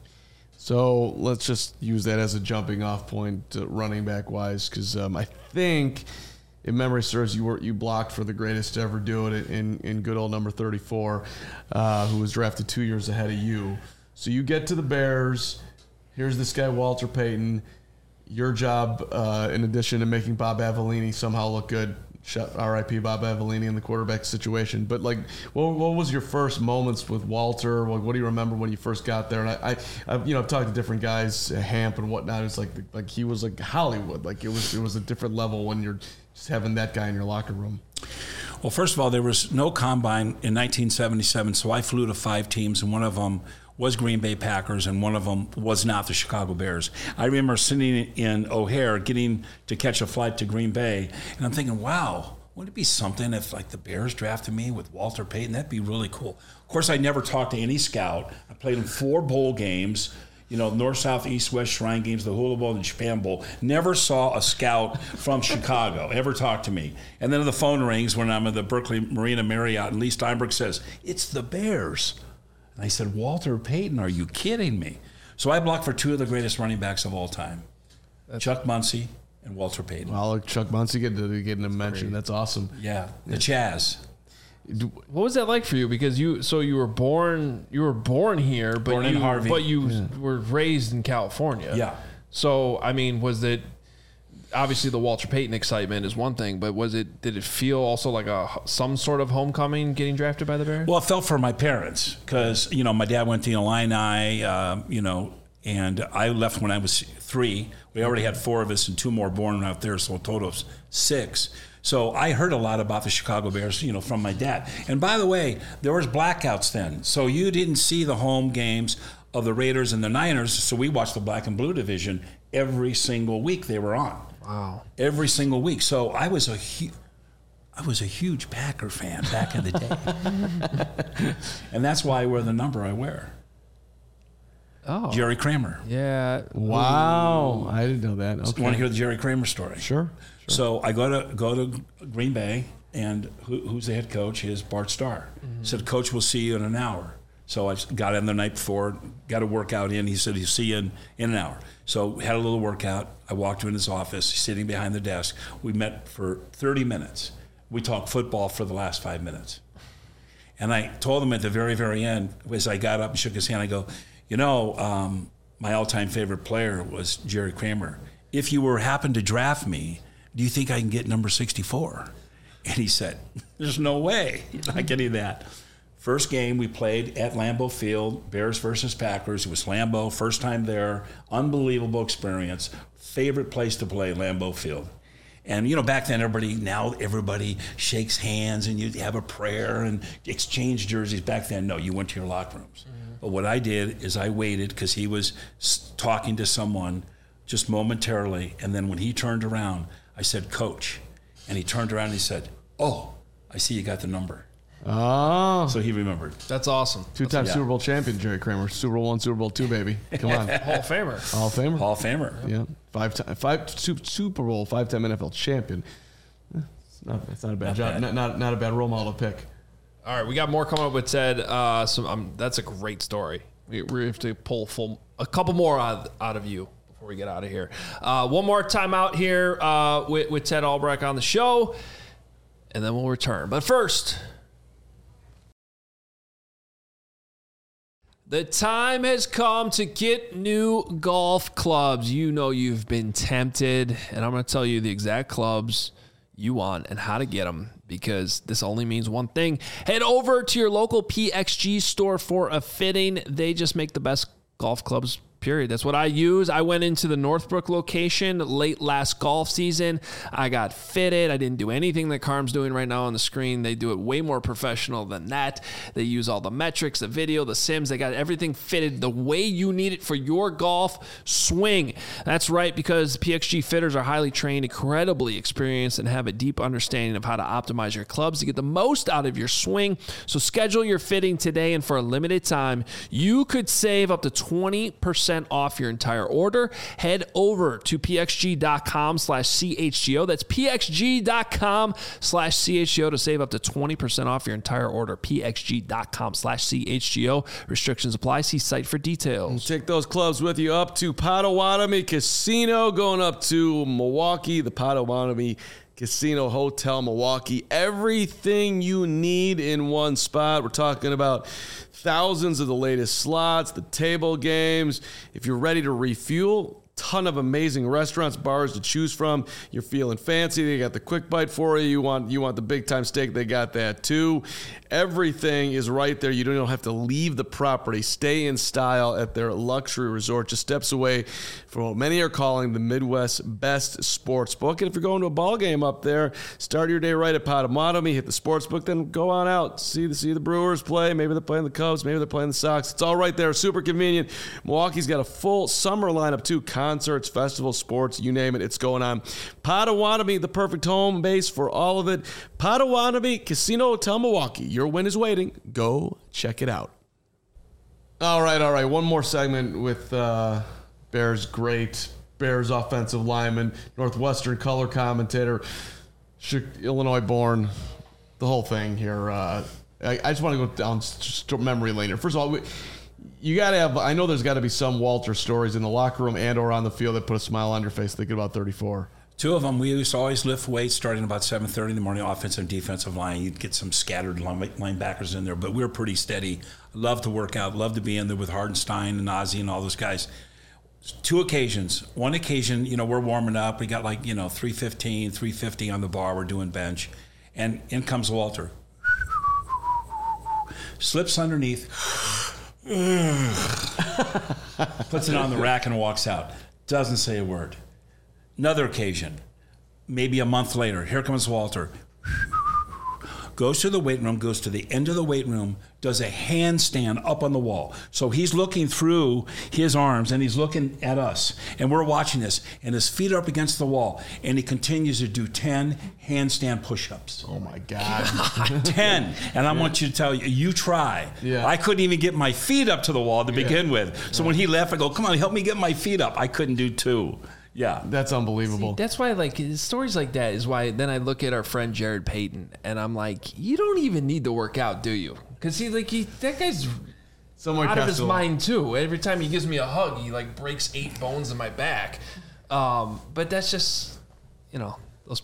So let's just use that as a jumping off point, uh, running back wise, because um, I think, if memory serves, you were you blocked for the greatest to ever do it in in good old number thirty-four, uh, who was drafted two years ahead of you. So you get to the Bears. Here's this guy, Walter Payton. Your job, uh, in addition to making Bob Avellini somehow look good, R I P Bob Avellini in the quarterback situation. But like, what, what was your first moments with Walter? What, what do you remember when you first got there? And I, I, I've, you know, I've talked to different guys, uh, Hamp and whatnot. It's like, like he was like Hollywood. Like it was, it was a different level when you're just having that guy in your locker room. Well, first of all, there was no combine in nineteen seventy-seven, so I flew to five teams, and one of them was Green Bay Packers, and one of them was not the Chicago Bears. I remember sitting in O'Hare getting to catch a flight to Green Bay, and I'm thinking, wow, wouldn't it be something if like the Bears drafted me with Walter Payton? That'd be really cool. Of course, I never talked to any scout. I played in four bowl games, you know, North, South, East, West Shrine games, the Hula Bowl and the Japan Bowl. Never saw a scout from Chicago ever talk to me. And then the phone rings when I'm at the Berkeley Marina Marriott, and Lee Steinberg says, it's the Bears. And I said, Walter Payton, are you kidding me? So I blocked for two of the greatest running backs of all time, That's Chuck Muncie and Walter Payton. Well, Chuck Muncie getting getting a mention. Great. That's awesome. Yeah, the Chaz. What was that like for you? Because you, so you were born, you were born here, but born you, in Harvey. but you yeah. were raised in California. Yeah. So I mean, was it obviously the Walter Payton excitement is one thing, but was it? Did it feel also like a some sort of homecoming getting drafted by the Bears? Well, it felt for my parents because you know my dad went to Illini, uh, you know, and I left when I was three. We already had four of us and two more born out there, so a total of six. So I heard a lot about the Chicago Bears, you know, from my dad. And by the way, there was blackouts then, so you didn't see the home games of the Raiders and the Niners. So we watched the black and blue division every single week they were on. Wow! Every single week. So I was a hu- I was a huge Packer fan back in the day, and that's why I wear the number I wear. Oh. Jerry Kramer. Yeah. Wow. I didn't know that. Okay. Want to hear the Jerry Kramer story? Sure. So I go to go to Green Bay, and who, who's the head coach is Bart Starr. Mm-hmm. Said, Coach, we'll see you in an hour. So I got in the night before, got a workout in. He said, he'll see you in, in an hour. So had a little workout. I walked in his office, sitting behind the desk. We met for thirty minutes. We talked football for the last five minutes. And I told him at the very, very end, as I got up and shook his hand, I go, you know, um, my all-time favorite player was Jerry Kramer. If you were happened to draft me, do you think I can get number sixty-four? And he said, there's no way. You're not getting that. First game we played at Lambeau Field, Bears versus Packers. It was Lambeau, first time there, unbelievable experience. Favorite place to play, Lambeau Field. And, you know, back then, everybody, now everybody shakes hands and you have a prayer and exchange jerseys. Back then, no, you went to your locker rooms. Mm-hmm. But what I did is I waited because he was talking to someone just momentarily. And then when he turned around, I said, Coach. And he turned around and he said, oh, I see you got the number. Oh. So he remembered. That's awesome. Two-time Yeah. Super Bowl champion, Jerry Kramer. Super Bowl one, Super Bowl two, baby. Come on. Hall of Famer. Hall of Famer. Hall of Famer. Yeah. Five time, five Super Bowl, five-time N F L champion. It's not, it's not a bad Not job. bad. Not, not not a bad role model to pick. All right, we got more coming up with Ted. Uh, so um, that's a great story. We, we have to pull full a couple more out, out of you before we get out of here. Uh, one more time out here uh, with, with Ted Albrecht on the show, and then we'll return. But first, the time has come to get new golf clubs. You know you've been tempted, and I'm going to tell you the exact clubs you want and how to get them, because this only means one thing. Head over to your local P X G store for a fitting. They just make the best golf clubs, period. That's what I use. I went into the Northbrook location late last golf season. I got fitted. I didn't do anything that Carm's doing right now on the screen. They do it way more professional than that. They use all the metrics, the video, the sims. They got everything fitted the way you need it for your golf swing. That's right, because P X G fitters are highly trained, incredibly experienced, and have a deep understanding of how to optimize your clubs to get the most out of your swing. So schedule your fitting today, and for a limited time, you could save up to twenty percent off your entire order. Head over to pxg.com slash chgo. That's pxg.com slash chgo to save up to twenty percent off your entire order. pxg.com slash chgo. Restrictions apply. See site for details. Take those clubs with you up to Potawatomi Casino, going up to Milwaukee, the Potawatomi Casino Hotel Milwaukee. Everything you need in one spot. We're talking about thousands of the latest slots, the table games. If you're ready to refuel, ton of amazing restaurants, bars to choose from. You're feeling fancy, they got the quick bite for you. You want you want the big time steak, they got that too. Everything is right there. You don't even have to leave the property. Stay in style at their luxury resort, just steps away from what many are calling the Midwest's best sports book. And if you're going to a ball game up there, start your day right at Potawatomi, hit the sports book, then go on out. See the see the Brewers play. Maybe they're playing the Cubs, maybe they're playing the Sox. It's all right there. Super convenient. Milwaukee's got a full summer lineup too. Concerts, festivals, sports, you name it, it's going on. Potawatomi, the perfect home base for all of it. Potawatomi Casino Hotel Milwaukee. Your win is waiting. Go check it out. All right, all right. One more segment with uh, Bears great, Bears offensive lineman, Northwestern color commentator, Illinois born, the whole thing here. Uh, I, I just want to go down just memory lane here. First of all, we, you got to have, I know there's got to be some Walter stories in the locker room and or on the field that put a smile on your face thinking about thirty-four. Two of them, we used to always lift weights starting about seven thirty in the morning, offensive and defensive line. You'd get some scattered line, linebackers in there, but we were pretty steady. Love to work out, love to be in there with Hardenstein and Ozzie and all those guys. Two occasions. One occasion, you know, we're warming up. We got like, you know, three fifteen, three fifty on the bar. We're doing bench. And in comes Walter. Slips underneath. Puts it on the rack and walks out. Doesn't say a word. Another occasion, maybe a month later, here comes Walter. Goes to the weight room, goes to the end of the weight room, does a handstand up on the wall. So he's looking through his arms and he's looking at us. And we're watching this. And his feet are up against the wall. And he continues to do ten handstand push-ups. Oh, my God. ten. And I want you to tell you, you try. Yeah. I couldn't even get my feet up to the wall to begin yeah. with. So yeah. when he left, I go, come on, help me get my feet up. I couldn't do two. Yeah. That's unbelievable. See, that's why, like, stories like that is why then I look at our friend Jared Payton and I'm like, you don't even need to work out, do you? Because he, like, he, that guy's Somewhere out of his Castle. mind, too. Every time he gives me a hug, he, like, breaks eight bones in my back. Um, but that's just, you know, those.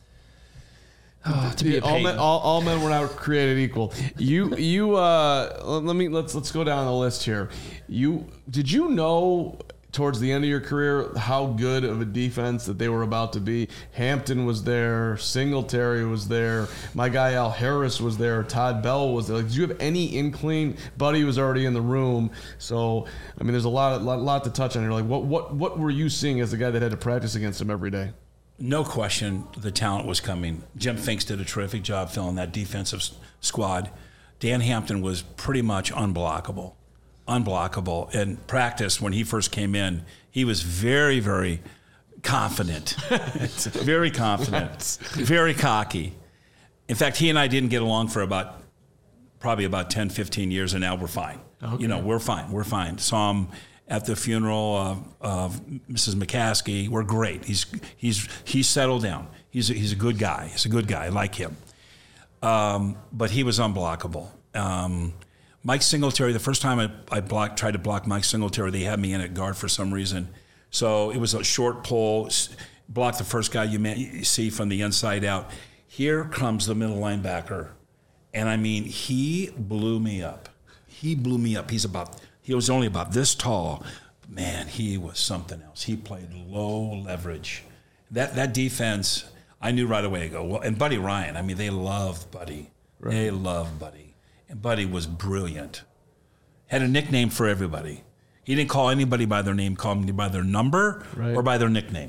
Oh, to be a all, men, all, all men were not created equal. You, you. Uh, let me let's let's go down the list here. You did you know towards the end of your career how good of a defense that they were about to be? Hampton was there, Singletary was there, my guy Al Harris was there, Todd Bell was there. Like, did you have any inkling? Buddy was already in the room, so I mean, there's a lot, lot, lot to touch on here. Like, what, what, what were you seeing as the guy that had to practice against him every day? No question, the talent was coming. Jim Finks did a terrific job filling that defensive s- squad. Dan Hampton was pretty much unblockable. Unblockable. In practice, when he first came in, he was very, very confident. very confident. Very cocky. In fact, he and I didn't get along for about, probably about ten, fifteen years, and now we're fine. Okay. You know, we're fine. We're fine. Saw him at the funeral of, of Missus McCaskey. We're great. He's he's he's settled down. He's a, he's a good guy. He's a good guy. I like him. Um, but he was unblockable. Um, Mike Singletary, the first time I, I blocked, tried to block Mike Singletary, they had me in at guard for some reason. So it was a short pull, block the first guy you, may, you see from the inside out. Here comes the middle linebacker. And I mean, he blew me up. He blew me up. He's about, he was only about this tall. Man, he was something else. He played low leverage. That that defense, I knew right away to go. Well, and Buddy Ryan, I mean, they love Buddy. Right. They love Buddy. And Buddy was brilliant. Had a nickname for everybody. He didn't call anybody by their name, call them by their number right. or by their nickname.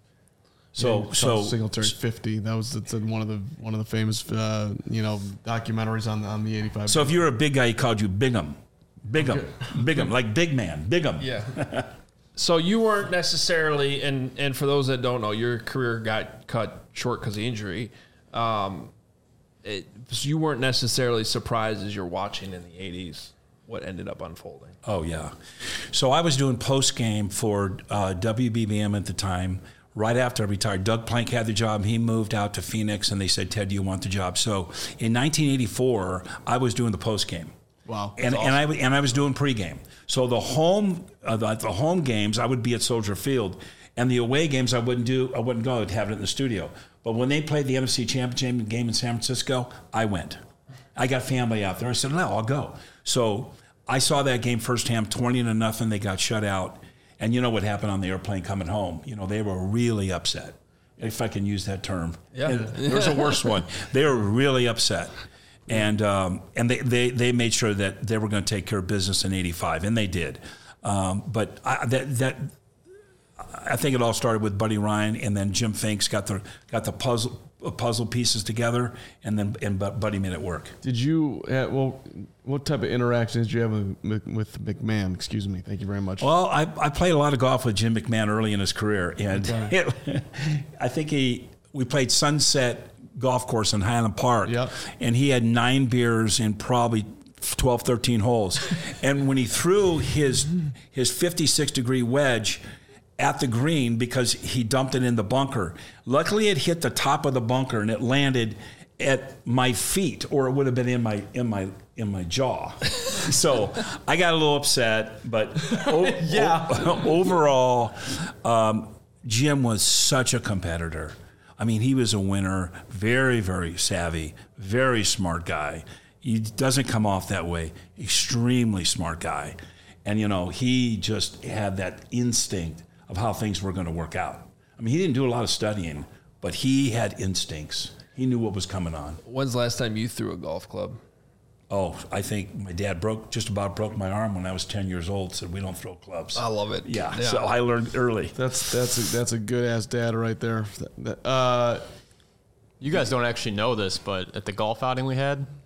So, yeah, so Singletary fifty. That was it's one of the one of the famous uh, you know documentaries on on the eighty-five. So if you were a big guy, he called you Bigham, Bigham, okay. Bigham, like big man, Bigham. Yeah. So you weren't necessarily, and and for those that don't know, your career got cut short because of injury. Um, It, so you weren't necessarily surprised as you're watching in the eighties what ended up unfolding. Oh, yeah. So I was doing post-game for uh, W B B M at the time. Right after I retired, Doug Plank had the job. He moved out to Phoenix, and they said, Ted, do you want the job? So in nineteen eighty-four, I was doing the post-game. Wow. And, awesome. and, I, and I was doing pregame. So the home uh, the, the home games, I would be at Soldier Field. And the away games, I wouldn't do. I wouldn't go. I'd have it in the studio. But when they played the N F C Championship game in San Francisco, I went. I got family out there. I said, no, I'll go. So I saw that game firsthand, twenty to nothing. They got shut out. And you know what happened on the airplane coming home? You know, they were really upset, if I can use that term. Yeah. There's a worse one. They were really upset. And um, and they, they, they made sure that they were going to take care of business in eighty-five, and they did. Um, but I, that that I think it all started with Buddy Ryan, and then Jim Finks got the got the puzzle puzzle pieces together, and then and Buddy made it work. Did you? Uh, well, what type of interactions did you have with, with McMahon? Excuse me. Thank you very much. Well, I, I played a lot of golf with Jim McMahon early in his career, and okay. it, I think he we played Sunset Golf Course in Highland Park, yep. and he had nine beers in probably twelve, thirteen holes, and when he threw his his fifty-six degree wedge at the green because he dumped it in the bunker. Luckily, it hit the top of the bunker and it landed at my feet, or it would have been in my in my in my jaw. So I got a little upset, but o- yeah. o- overall, um, Jim was such a competitor. I mean, he was a winner, very, very savvy, very smart guy. He doesn't come off that way. Extremely smart guy, and you know, he just had that instinct of how things were going to work out. I mean, he didn't do a lot of studying, but he had instincts. He knew what was coming on. When's the last time you threw a golf club? Oh, I think my dad broke just about broke my arm when I was ten years old. Said we don't throw clubs. I love it. Yeah, yeah. So I learned early. That's that's a, that's a good ass dad right there. Uh, you guys don't actually know this, but at the golf outing we had,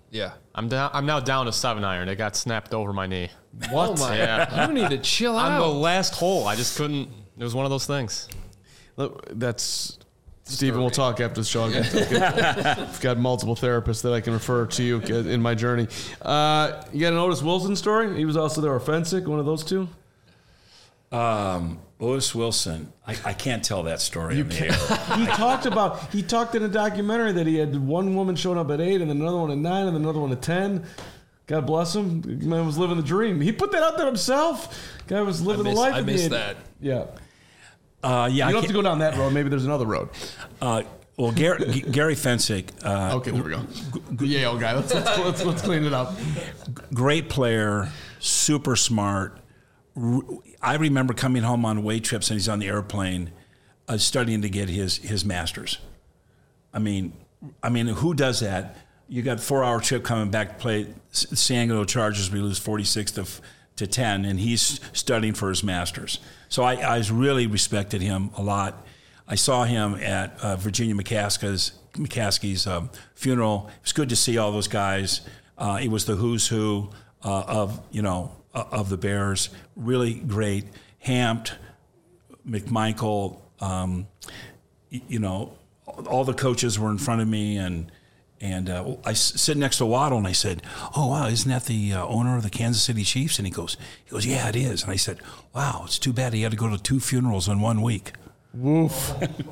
Yeah. I'm down. I'm now down to seven iron. It got snapped over my knee. What? Oh my! Yeah. You need to chill On out. the last hole, I just couldn't. It was one of those things. Look, that's Stephen. We'll talk after the show. I've got, I've got multiple therapists that I can refer to you in my journey. Uh, you got an Otis Wilson story? He was also there, or Fensick, one of those two. Um, Otis Wilson, I, I can't tell that story in the air. He talked about, he talked in a documentary that he had one woman showing up at eight and then another one at nine and then another one at ten. God bless him. The man was living the dream. He put that out there himself. Guy was living I miss, the life. I of missed the, that. Yeah. Uh, yeah, You I don't have to go down that road. Maybe there's another road. Uh, well, Gary, G- Gary Fensick, uh, Okay, there we go. The Yale guy. Let's, let's, let's, let's clean it up. great player, super smart. R- I remember coming home on away trips and he's on the airplane, uh, studying to get his his master's. I mean, I mean, who does that? You got a four-hour trip coming back to play San Diego Chargers. We lose forty-six to to ten, and he's studying for his master's. So I, I really respected him a lot. I saw him at uh, Virginia McCaskey's, McCaskey's um, funeral. It was good to see all those guys. Uh, it was the who's who uh, of you know uh, of the Bears. Really great. Hampt, McMichael. Um, y- you know, all the coaches were in front of me, and and uh, I s- sit next to Waddle, and I said, "Oh wow, isn't that the uh, owner of the Kansas City Chiefs?" And he goes, "He goes, yeah, it is." And I said, "Wow, it's too bad he had to go to two funerals in one week." Woof.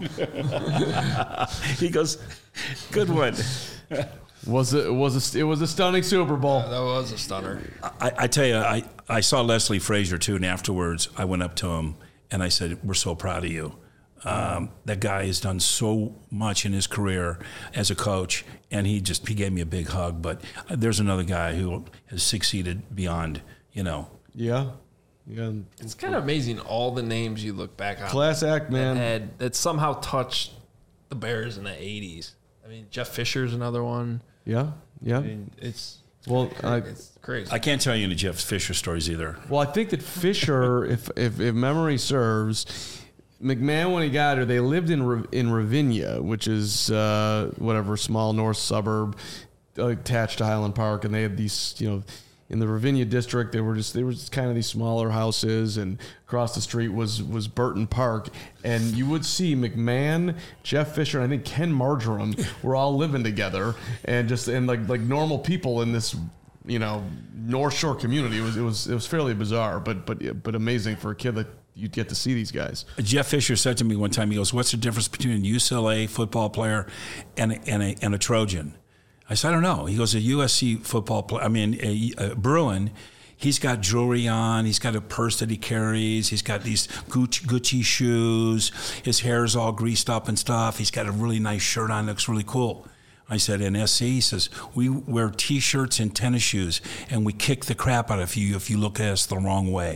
He goes, "Good one." Was it was a, it was a stunning Super Bowl. That was a stunner. I, I tell you, I, I saw Leslie Frazier too, and afterwards I went up to him and I said, "We're so proud of you. Um, that guy has done so much in his career as a coach," and he just he gave me a big hug. But there's another guy who has succeeded beyond, you know. Yeah. Yeah. It's kind of amazing all the names you look back on. Class act, man. That, had, that somehow touched the Bears in the eighties. I mean, Jeff Fisher's another one. Yeah. Yeah. I mean, it's Well, I, it's crazy. I can't tell you any Jeff Fisher stories either. well, I think that Fisher, if, if if memory serves, McMahon when he got her, they lived in Ra- in Ravinia, which is uh, whatever small north suburb uh, attached to Highland Park, and they had these, you know, in the Ravinia district, they were just they were just kind of these smaller houses, and across the street was was Burton Park, and you would see McMahon, Jeff Fisher, and I think Ken Marjoram were all living together, and just and like like normal people in this, you know, North Shore community. It was it was it was fairly bizarre, but but but amazing for a kid that you'd get to see these guys. Jeff Fisher said to me one time, he goes, "What's the difference between a U C L A football player and a, and a, and a Trojan?" I said, "I don't know." He goes, "A U S C football player, I mean, a, a Bruin, he's got jewelry on, he's got a purse that he carries, he's got these Gucci, Gucci shoes, his hair's all greased up and stuff, he's got a really nice shirt on, looks really cool." I said, "In S C," he says, "we wear T-shirts and tennis shoes, and we kick the crap out of you if you look at us the wrong way."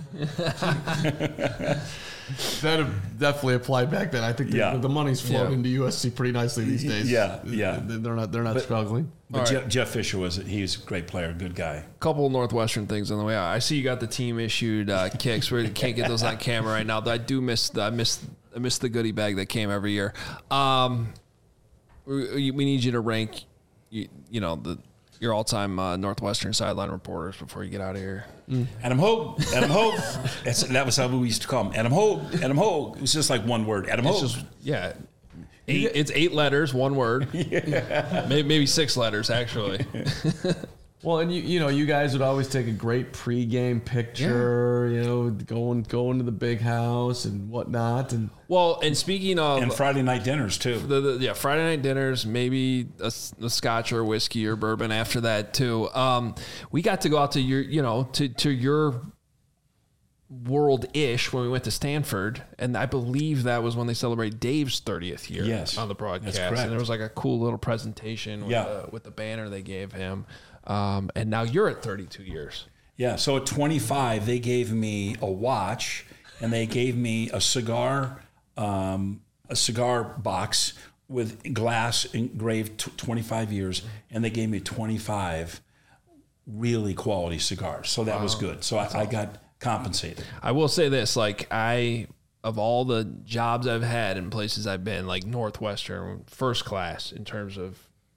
That definitely applied back then. I think the, Yeah. the money's flowing Yeah. into U S C pretty nicely these days. Yeah, yeah. They're not they're not struggling. But All Jeff, right. Jeff Fisher was he's a great player, good guy. Couple Northwestern things on the way out. I see you got the team issued uh, kicks. We can't get those on camera right now. But I do miss the, I miss I miss the goodie bag that came every year. Um, we, we need you to rank, you, you know, the your all time uh, Northwestern sideline reporters before you get out of here. Adam Hogue, Adam Hogue. That's, that was how we used to call him. Adam Hogue, Adam Hogue. It was just like one word. Adam It's Hogue. just yeah. Eight, it's eight letters, one word. Yeah. Maybe, maybe six letters, actually. Well, and you you know you guys would always take a great pregame picture, you know, going going to the big house and whatnot, and Well, and speaking of and Friday night dinners too. the, the yeah Friday night dinners, maybe a, a scotch or whiskey or bourbon after that too. Um, we got to go out to your you know to to your world ish when we went to Stanford, and I believe that was when they celebrated Dave's thirtieth year. Yes, on the broadcast, that's correct. and there was like a cool little presentation with, Yeah. the, with the banner they gave him. Um, and now you're at thirty-two years. Yeah. So at twenty-five, they gave me a watch, and they gave me a cigar, um, a cigar box with glass engraved t- twenty-five years, and they gave me twenty-five really quality cigars. So that was good. So I, I got compensated. I will say this, like I, of all the jobs I've had and places I've been, like Northwestern, first class in terms of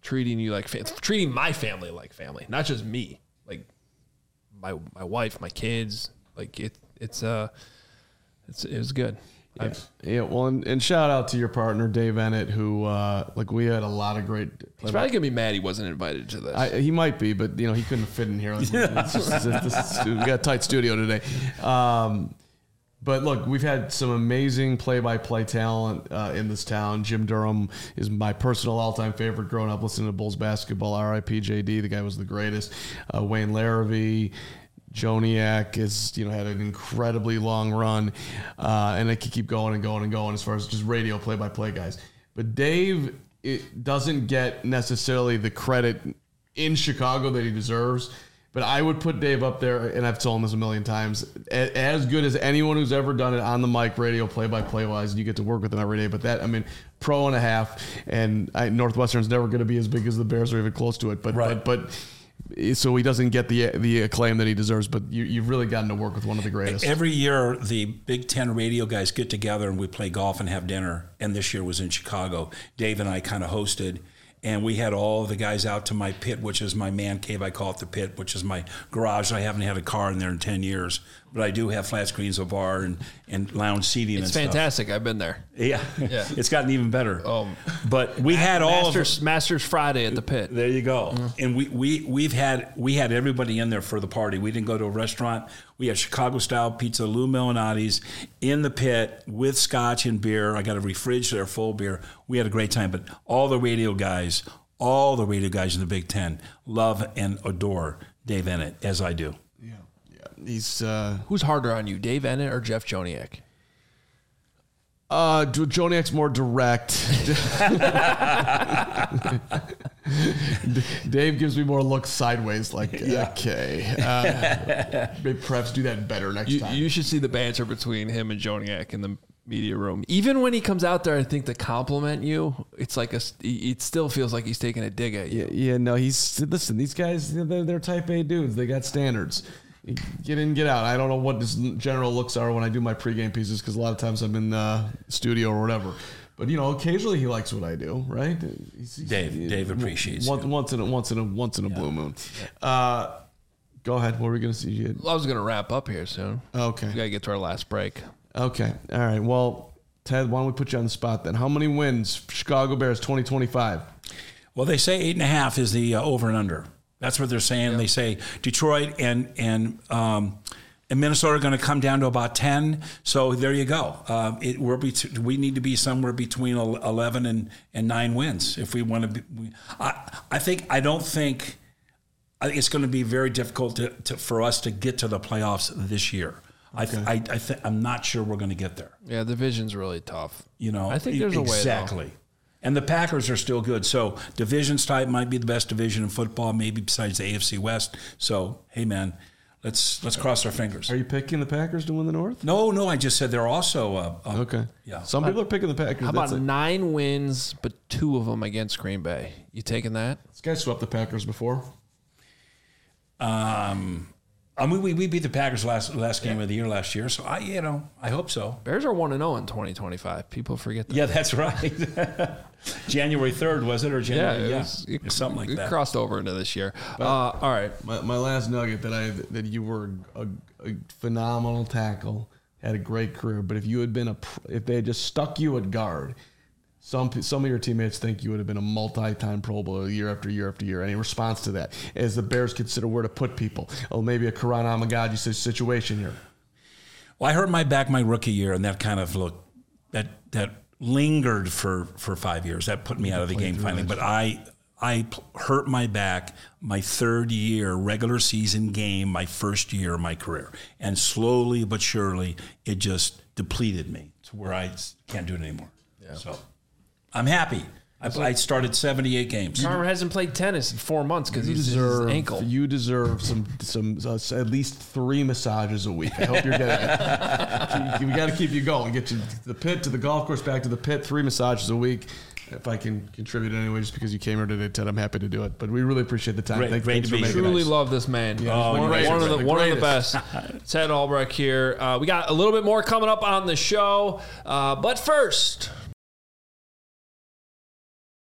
treating you like, fa- treating my family like family, not just me, like my my wife, my kids. Like it, it's uh, it's it was good. Yeah, yeah well, and, and shout out to your partner Dave Ennett, who uh, like we had a lot of great. He's probably gonna be mad he wasn't invited to this. I, he might be, but you know he couldn't fit in here. It's just- it's- it's- we got a tight studio today. Um, but look, we've had some amazing play-by-play talent uh, in this town. Jim Durham is my personal all-time favorite growing up listening to Bulls basketball. R I P J D, the guy was the greatest. Uh, Wayne Larrabee. Joniak has, you know, had an incredibly long run, uh, and it could keep going and going and going as far as just radio play-by-play guys. But Dave, it doesn't get necessarily the credit in Chicago that he deserves. But I would put Dave up there, and I've told him this a million times, a- as good as anyone who's ever done it on the mic, radio play-by-play wise. You get to work with him every day. But that, I mean, pro and a half, and I, Northwestern's never going to be as big as the Bears or even close to it. But Right. but but. So he doesn't get the the acclaim that he deserves, but you, you've really gotten to work with one of the greatest. Every year, the Big Ten radio guys get together and we play golf and have dinner. And this year was in Chicago. Dave and I kind of hosted. And we had all the guys out to my pit, which is my man cave. I call it the pit, which is my garage. I haven't had a car in there in ten years. But I do have flat screens, a bar, and, and lounge seating it's and stuff. fantastic. I've been there. Yeah. Yeah. It's gotten even better. Um, but we had all Masters, of Masters Friday at the pit. There you go. Mm-hmm. And we, we, we've had we had everybody in there for the party. We didn't go to a restaurant. We had Chicago-style pizza, Lou Melinati's, in the pit with scotch and beer. I got a refrigerator full of beer. We had a great time. But all the radio guys, all the radio guys in the Big Ten love and adore Dave Ennett, as I do. Yeah, yeah. He's uh, Who's harder on you, Dave Ennett or Jeff Joniak? uh, Joniak's more direct. Dave gives me more looks sideways, like Yeah. okay, uh, maybe perhaps do that better next You, time. you should see the banter between him and Joniak in the media room. Even when he comes out there, I think to compliment you, it's like a. It still feels like he's taking a dig at you. Yeah, yeah, no, he's listen. These guys, they're, they're type A dudes. They got standards. Get in, get out. I don't know what his general looks are when I do my pregame pieces because a lot of times I'm in the studio or whatever. But you know, occasionally he likes what I do, right? He's, he's, Dave, he, Dave appreciates once, you. once in a once in a once in a blue moon. Uh, go ahead. What are we gonna see? You I was going to wrap up here soon. okay. We got to get to our last break. Okay. All right. Well, Ted, why don't we put you on the spot then? How many wins Chicago Bears twenty twenty-five? Well, they say eight and a half is the uh, over and under. That's what they're saying. Yeah. They say Detroit and and um, and Minnesota are going to come down to about ten. So there you go. Uh, it, we're be, we need to be somewhere between eleven and, and nine wins if we want to be. We, I I think I don't think I think it's going to be very difficult to, to, for us to get to the playoffs this year. Okay. I I, I th- I'm not sure we're going to get there. Yeah, the division's really tough. You know, I think there's a way. Exactly. And the Packers are still good. So divisions type might be the best division in football, maybe besides the A F C West. So, hey, man, let's let's cross our fingers. Are you picking the Packers to win the North? No, no, I just said they're also uh, uh, Okay. Yeah. Some people are picking the Packers. How about That's it. nine wins, but two of them against Green Bay? You taking that? This guy swept the Packers before. Um, I mean, we, we beat the Packers last last game yeah. of the year last year, so I you know I hope so. Bears are one and zero in twenty twenty five. People forget that. Yeah, that's right. January third was it or January? Yeah, it yeah, was, it, something like it that. Crossed over into this year. Uh, all right, my, my last nugget that I that you were a, a phenomenal tackle, had a great career, but if you had been a if they had just stuck you at guard. Some some of your teammates think you would have been a multi-time Pro Bowler year after year after year. Any response to that? As the Bears consider where to put people? Oh, maybe a Karan Amagadji situation here. Well, I hurt my back my rookie year, and that kind of looked that that lingered for, for five years. That put me out of the game finally. But I I hurt my back my third year regular season game, my first year of my career, and slowly but surely it just depleted me to where I can't do it anymore. Yeah. So. I'm happy. I, I started seventy-eight games. Carver hasn't played tennis in four months because he's deserve, his ankle. You deserve some some uh, at least three massages a week. I hope you're getting it. We got to keep you going. Get you to the pit, to the golf course, back to the pit. Three massages a week. If I can contribute anyway, just because you came here today, Ted, I'm happy to do it. But we really appreciate the time. Great, Thank, great thanks to for be making Truly it. love this man. Yeah, oh, one, one, of the, the one of the best. Ted Albrecht here. Uh, we got a little bit more coming up on the show. Uh, but first...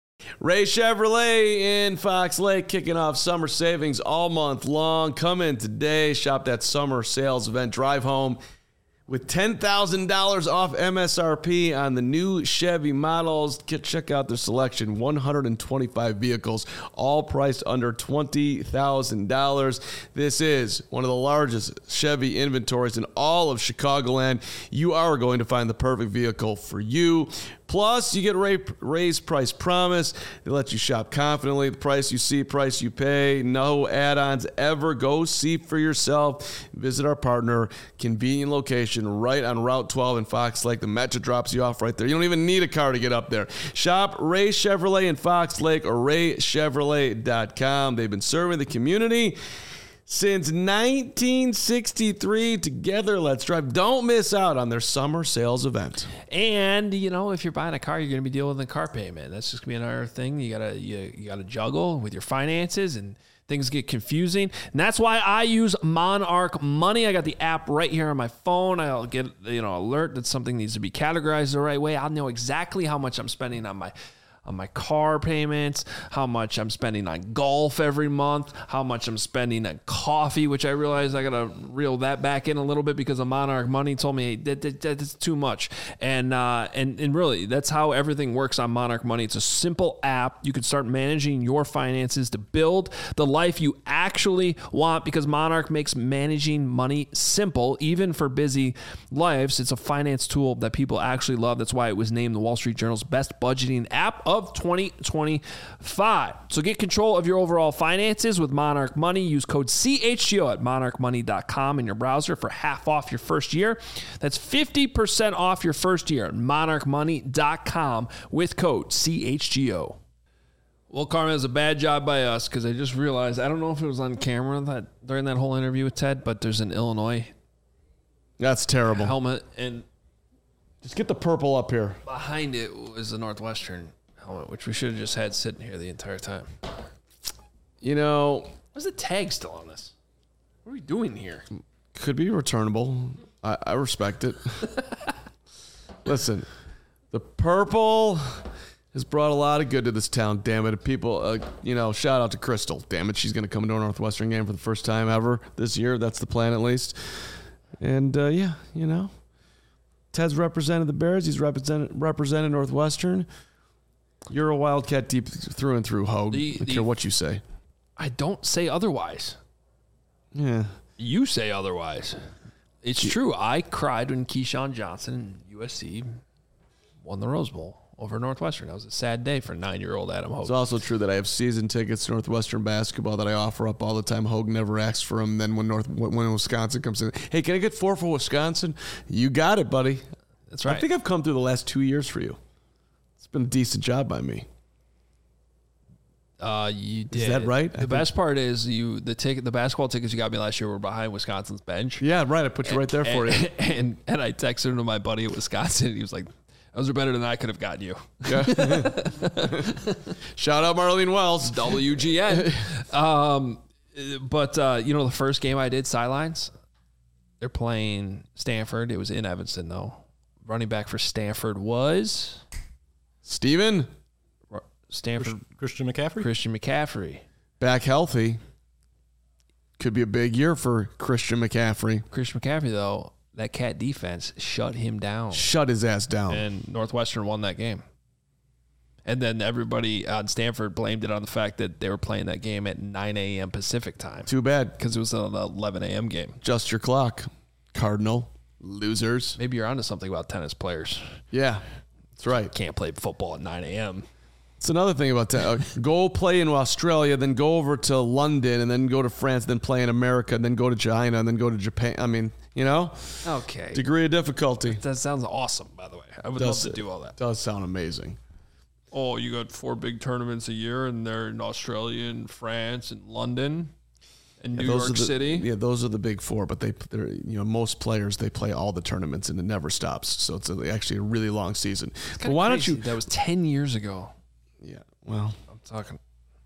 Ray Chevrolet in Fox Lake kicking off summer savings all month long. Come in today, shop that summer sales event, drive home with ten thousand dollars off M S R P on the new Chevy models. Get, check out their selection, one hundred twenty-five vehicles, all priced under twenty thousand dollars. This is one of the largest Chevy inventories in all of Chicagoland. You are going to find the perfect vehicle for you. Plus, you get Ray, Ray's Price Promise. They let you shop confidently. The price you see, price you pay. No add-ons ever. Go see for yourself. Visit our partner. Convenient location right on Route twelve in Fox Lake. The Metro drops you off right there. You don't even need a car to get up there. Shop Ray Chevrolet in Fox Lake or ray chevrolet dot com. They've been serving the community since nineteen sixty-three. Together, let's drive. Don't miss out on their summer sales event. And, you know, if you're buying a car, you're going to be dealing with a car payment. That's just going to be another thing you got to you, you got to juggle with your finances, and things get confusing. And that's why I use Monarch Money. I got the app right here on my phone. I'll get, you know, alert that something needs to be categorized the right way. I'll know exactly how much I'm spending on my on my car payments, how much I'm spending on golf every month, how much I'm spending on coffee, which I realized I got to reel that back in a little bit because of Monarch Money told me, hey, that, that, that's too much. And, uh, and, and really, that's how everything works on Monarch Money. It's a simple app. You can start managing your finances to build the life you actually want, because Monarch makes managing money simple, even for busy lives. It's a finance tool that people actually love. That's why it was named the Wall Street Journal's best budgeting app of twenty twenty-five. So get control of your overall finances with Monarch Money. Use code C H G O at monarch money dot com in your browser for half off your first year. That's fifty percent off your first year at monarch money dot com with code C H G O. Well, Carmen, it's a bad job by us because I just realized, I don't know if it was on camera that during that whole interview with Ted, but there's an Illinois That's terrible. helmet, and Just get the purple up here. behind it was the Northwestern helmet, which we should have just had sitting here the entire time. You know, Where's the tag still on this? What are we doing here? could be returnable. I, I respect it. Listen, the purple has brought a lot of good to this town, damn it. People, uh, you know, shout out to Crystal. Damn it, she's going to come into a Northwestern game for the first time ever this year. That's the plan, at least. And, uh, yeah, you know, Ted's represented the Bears. He's represented, represented Northwestern. You're a Wildcat deep through and through, Hogue. The- I don't the- care what you say. I don't say otherwise. Yeah. You say otherwise. It's true. I cried when Keyshawn Johnson and U S C won the Rose Bowl over Northwestern. That was a sad day for nine-year-old Adam Hogue. It's also true that I have season tickets to Northwestern basketball that I offer up all the time. Hogue never asks for them. Then when North when Wisconsin comes in, hey, can I get four for Wisconsin? You got it, buddy. That's right. I think I've come through the last two years for you. It's been a decent job by me. Uh, you did. Is that right? I The think- best part is you the ticket, the basketball tickets you got me last year were behind Wisconsin's bench. Yeah, right. I put you right there for and, you. And and I texted him to my buddy at Wisconsin. And he was like, "Those are better than I could have gotten you." Shout out Marlene Wells. W G N. um, but uh, you know, the first game I did sidelines. They're playing Stanford. It was in Evanston though. Running back for Stanford was Steven, Stanford Christian McCaffrey? Christian McCaffrey. back healthy. Could be a big year for Christian McCaffrey. Christian McCaffrey though, that Cat defense shut him down. Shut his ass down. And Northwestern won that game. And then everybody on Stanford blamed it on the fact that they were playing that game at nine a.m. Pacific time Too bad. because it was an eleven a.m. game. Just your clock. Cardinal. Losers. Maybe you're onto something about tennis players. Yeah, that's right. Can't play football at nine a.m. It's another thing about that. Uh, go play in Australia, then go over to London, and then go to France, then play in America, and then go to China, and then go to Japan. I mean, you know, Okay. degree of difficulty. That sounds awesome, by the way. I would Does love to it- do all that. Does sound amazing. Oh, you got four big tournaments a year, and they're in Australia and France and London and New Those York are the, City. Yeah, those are the big four. But they, they're you know, most players they play all the tournaments and it never stops. So it's a, actually a really long season. But Kinda why crazy. don't you? That was ten years ago. Yeah. Well, I'm talking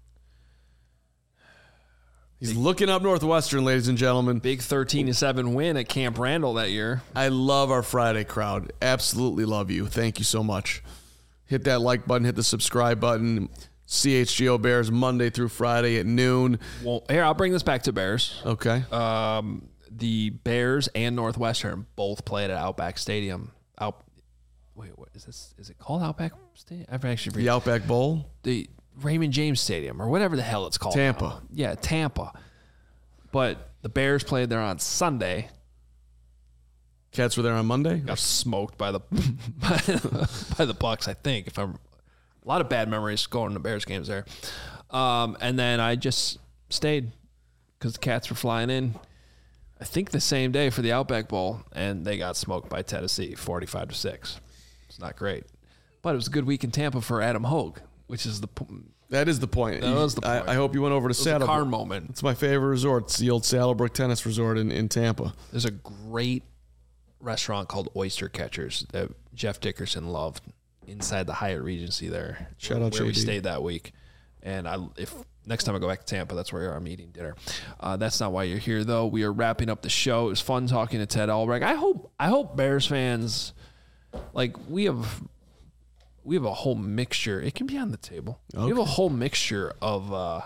he's looking up Northwestern, ladies and gentlemen. big thirteen to seven win at Camp Randall that year. I love our Friday crowd. Absolutely love you. Thank you so much. Hit that like button, hit the subscribe button. C H G O Bears Monday through Friday at noon. Well, here, I'll bring this back to Bears. Okay. Um, the Bears and Northwestern both played at Outback Stadium. Out. Wait, what is this? Is it called Outback Stadium? I've actually the Outback Bowl? The Raymond James Stadium or whatever the hell it's called. Tampa. Now. Yeah, Tampa. But the Bears played there on Sunday. Cats were there on Monday? Got smoked by the by, by the Bucks, I think. If I'm a lot of bad memories going to Bears games there. Um, and then I just stayed because the Cats were flying in. I think the same day for the Outback Bowl, and they got smoked by Tennessee, forty-five to six. It's not great, but it was a good week in Tampa for Adam Hogue, which is the that is the point. That was the point. I, I hope you went over to Saddlebrook. Car moment. It's my favorite resort. It's the old Saddlebrook Tennis Resort in, in Tampa. There's a great restaurant called Oyster Catchers that Jeff Dickerson loved inside the Hyatt Regency there. Shout where, out where we J D. stayed that week. And I, if next time I go back to Tampa, that's where I'm eating dinner. Uh, that's not why you're here, though. We are wrapping up the show. It was fun talking to Ted Albrecht. I hope I hope Bears fans, like we have, we have a whole mixture. It can be on the table. Okay. We have a whole mixture of. Uh,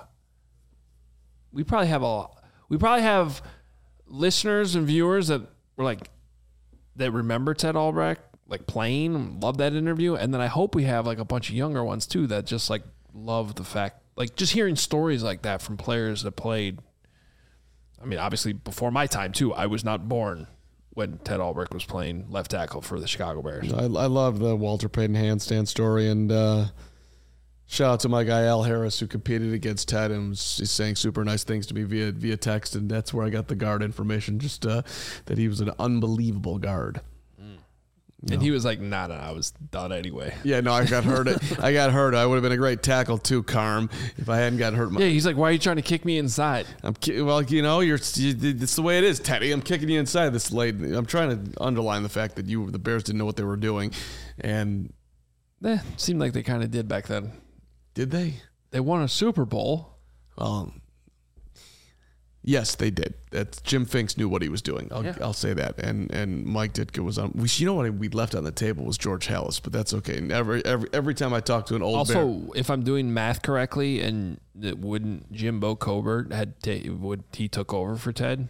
we probably have a. We probably have listeners and viewers that were like, that remember Ted Albrecht, like playing, love that interview, and then I hope we have like a bunch of younger ones too that just like love the fact, like just hearing stories like that from players that played. I mean, obviously before my time too. I was not born when Ted Albrecht was playing left tackle for the Chicago Bears. I, I love the Walter Payton handstand story, and uh, shout out to my guy Al Harris who competed against Ted and was he's saying super nice things to me via via text, and that's where I got the guard information. Just uh, that he was an unbelievable guard. And no. He was like, nah, nah, I was done anyway. Yeah, no, I got hurt. I got hurt. I would have been a great tackle too, Carm, if I hadn't got hurt. My- yeah, he's like, why are you trying to kick me inside? I'm ki- well, you know, you're. It's the way it is, Teddy. I'm kicking you inside this late. I'm trying to underline the fact that you, the Bears, didn't know what they were doing, and eh, seemed like they kind of did back then. Did they? They won a Super Bowl. Well, yes, they did. That's, Jim Finks knew what he was doing. I'll, Yeah. I'll say that. And and Mike Ditka was on. We, you know what we left on the table was George Halas, but that's okay. Every every every time I talk to an old also, Bear, if I'm doing math correctly, and it wouldn't Jimbo Cobert had ta- would he took over for Ted?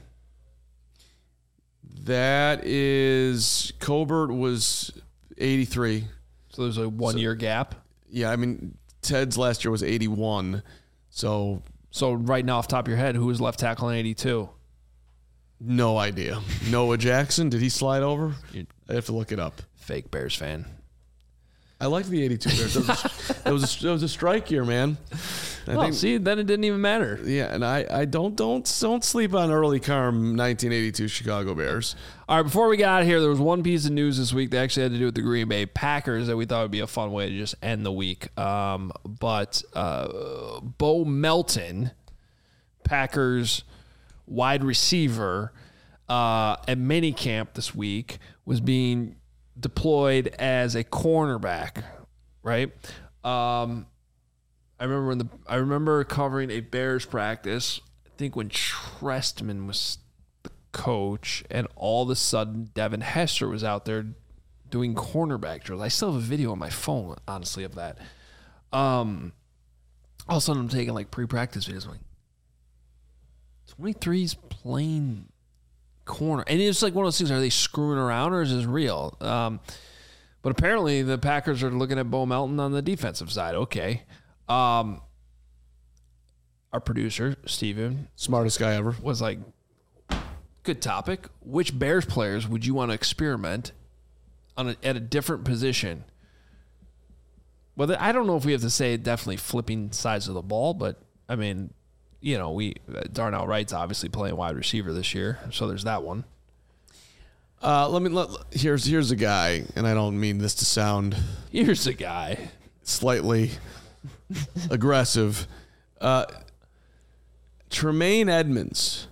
that is Colbert was eighty-three. So there's a one So- year gap. Yeah, I mean Ted's last year was eighty-one. So So right now, off the top of your head, who was left tackle in eighty-two? no idea. Noah Jackson, did he slide over? You- I have to look it up. Fake Bears fan. I liked the eighty-two Bears. That was a, that was a, that was a strike year, man. I Well, think- see, then it didn't even matter. Yeah, and I, I don't don't don't sleep on early Carm nineteen eighty-two Chicago Bears. All right, before we got out of here, there was one piece of news this week that actually had to do with the Green Bay Packers that we thought would be a fun way to just end the week. Um, but uh, Bo Melton, Packers wide receiver, uh, at minicamp this week was being deployed as a cornerback, right? Um, I remember when the I remember covering a Bears practice. I think when Trestman was the coach, and all of a sudden Devin Hester was out there doing cornerback drills. I still have a video on my phone, honestly, of that. Um, all of a sudden I'm taking like pre-practice videos. I'm like, twenty-three's playing corner, and it's like one of those things. Are they screwing around, or is this real? Um, but apparently the Packers are looking at Bo Melton on the defensive side. Okay. Um, our producer, Steven, Smartest guy ever. was like, good topic. Which Bears players would you want to experiment on a, at a different position? Well, I don't know if we have to say definitely flipping sides of the ball, but I mean, you know, we Darnell Wright's obviously playing wide receiver this year, so there's that one. Uh, let me let, here's here's a guy, and I don't mean this to sound Here's a guy. slightly aggressive. Uh, Tremaine Edmonds.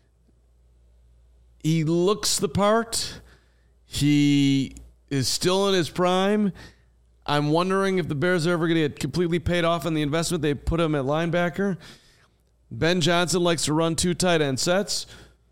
He looks the part. He is still in his prime. I'm wondering if the Bears are ever going to get completely paid off on the investment they put him at linebacker. Ben Johnson likes to run two tight end sets.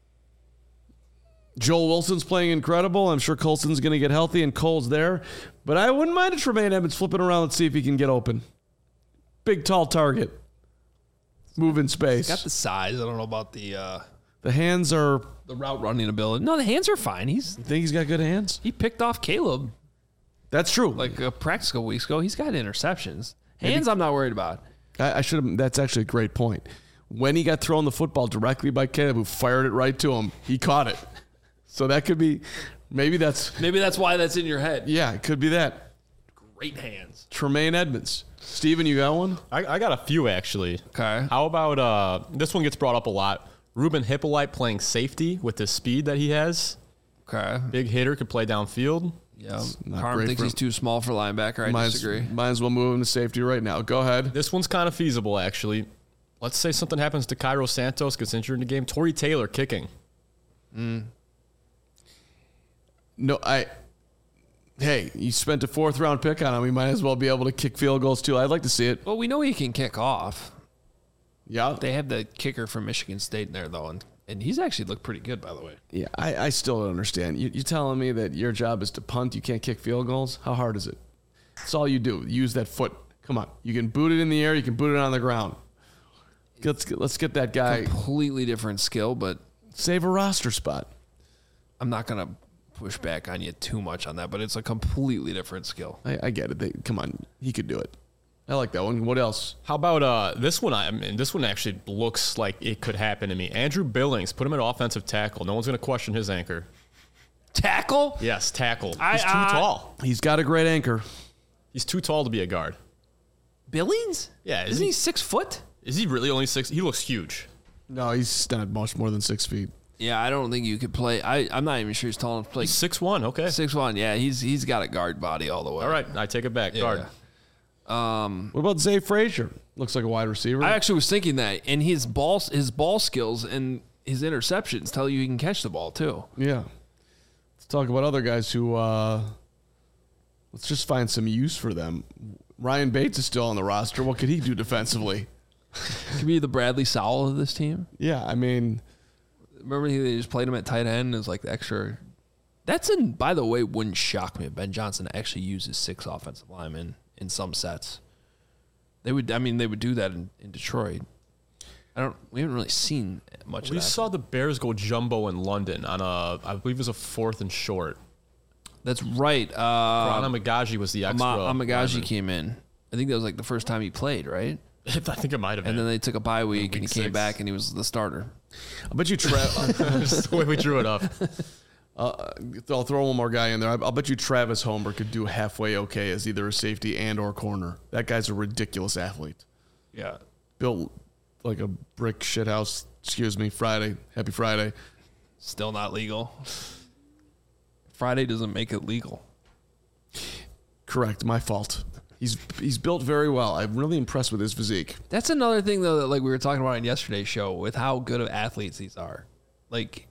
Joel Wilson's playing incredible. I'm sure Colson's going to get healthy and Cole's there. But I wouldn't mind a Tremaine Edmonds flipping around and see if he can get open. big, tall target. Move in space. Got the size. I don't know about the uh, The hands are. the route running ability. No, the hands are fine. He's You think he's got good hands? he picked off Caleb That's true. like a practice a couple weeks ago. He's got interceptions. Hands, I'm not worried about. I, I should have. That's actually a great point. When he got thrown the football directly by Caleb, who fired it right to him, he caught it. So that could be. Maybe that's. Maybe that's why that's in your head. Yeah, it could be that. Great hands. Tremaine Edmonds. Steven, you got one? I, I got a few actually. Okay. How about uh, this one gets brought up a lot. Ruben Hippolyte playing safety with the speed that he has. Okay. Big hitter, could play downfield. Yeah. not Carm great thinks for he's him. too small for linebacker. I might, disagree. Might as well move him to safety right now. Go ahead. This one's kind of feasible actually. Let's say something happens to Cairo Santos, gets injured in the game. Torrey Taylor kicking. No, I. Hey, you spent a fourth round pick on him. We might as well be able to kick field goals too. I'd like to see it. Well, we know he can kick off. Yeah. They have the kicker from Michigan State in there, though, and, and he's actually looked pretty good, by the way. Yeah, I, I still don't understand. You, you telling me that your job is to punt, you can't kick field goals? How hard is it? That's all you do. Use that foot. Come on. You can boot it in the air, you can boot it on the ground. Let's get, let's get that guy. Completely different skill, but Save a roster spot. I'm not going to push back on you too much on that, but it's a completely different skill. I, I get it. They, come on. He could do it. I like that one. What else? How about uh, this one? I mean, this one actually looks like it could happen to me. Andrew Billings, put him at offensive tackle. No one's going to question his anchor. Tackle? Yes, tackle. I- He's too I- tall. He's got a great anchor. He's too tall to be a guard. Billings? Yeah, is Isn't he- he six foot? Is he really only six? He looks huge. No, he's not much more than six feet. Yeah, I don't think you could play. I, I'm not even sure he's tall enough to play He's six one. Okay. six one. Yeah, he's he's got a guard body all the way. All right, I take it back. Yeah. Guard. What about Zay Frazier? Looks like a wide receiver. I actually was thinking that, and his ball his ball skills and his interceptions tell you he can catch the ball too. Yeah. Let's talk about other guys who, uh, let's just find some use for them. Ryan Bates is still on the roster. What could he do defensively? Could be the Bradley Sowell of this team. Yeah, I mean, Remember they just played him at tight end as like the extra. That's in. By the way, wouldn't shock me if Ben Johnson actually uses six offensive linemen in some sets. They would. I mean, they would do that in, in Detroit. I don't. We haven't really seen much We of that. saw the Bears go jumbo in London on a, I believe it was a fourth and short. That's right. Uh, Rana Magaji was the extra. Ama- Amagaji lineman. came in. I think that was like the first time he played, right? I think it might have been. And then they took a bye week, and he Week came six. back, and he was the starter. I bet you Travis. That's the way we drew it up. uh, I'll throw one more guy in there. I'll bet you Travis Homer could do halfway okay as either a safety and or corner. That guy's a ridiculous athlete. Yeah. Built like a brick shithouse. Excuse me. Friday. Happy Friday. Still not legal. Friday doesn't make it legal. Correct. My fault. He's he's built very well. I'm really impressed with his physique. That's another thing, though, that like we were talking about in yesterday's show with how good of athletes these are. Like,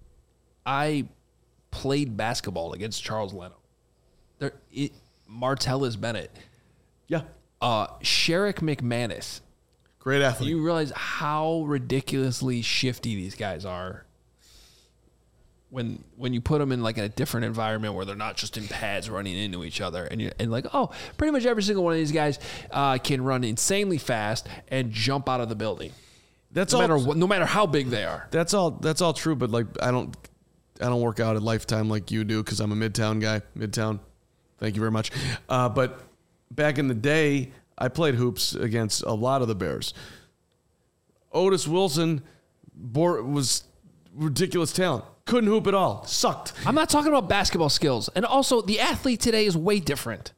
I played basketball against Charles Leno. There, it, Martellus Bennett, Yeah. uh, Sherrick McManus. Great athlete. You realize how ridiculously shifty these guys are when when you put them in like a different environment where they're not just in pads running into each other, and you and like, oh, pretty much every single one of these guys uh, can run insanely fast and jump out of the building. That's No all. matter what, no matter how big they are. That's all. That's all true. But like, I don't, I don't work out at Lifetime like you do because I'm a Midtown guy. Midtown. Thank you very much. Uh, but back in the day, I played hoops against a lot of the Bears. Otis Wilson bore, was ridiculous talent. Couldn't hoop at all. Sucked. I'm not talking about basketball skills, and also the athlete today is way different.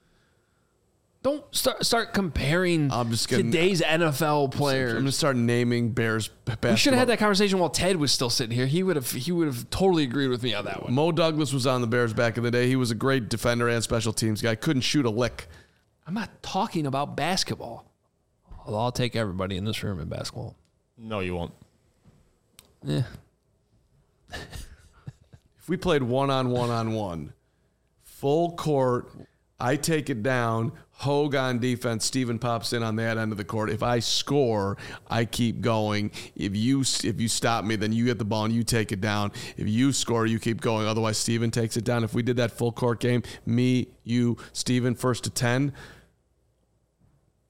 Don't start start comparing I'm just getting- today's N F L players. I'm gonna start naming Bears basketball. We should have had that conversation while Ted was still sitting here. He would have he would have totally agreed with me on that one. Mo Douglas was on the Bears back in the day. He was a great defender and special teams guy. Couldn't shoot a lick. I'm not talking about basketball. Although I'll take everybody in this room in basketball. No, you won't. Yeah. If we played one on one on one, full court, I take it down, Hogue on defense, Steven pops in on that end of the court. If I score, I keep going. If you if you stop me, then you get the ball and you take it down. If you score, you keep going. Otherwise, Steven takes it down. If we did that full court game, me, you, Steven, first to ten,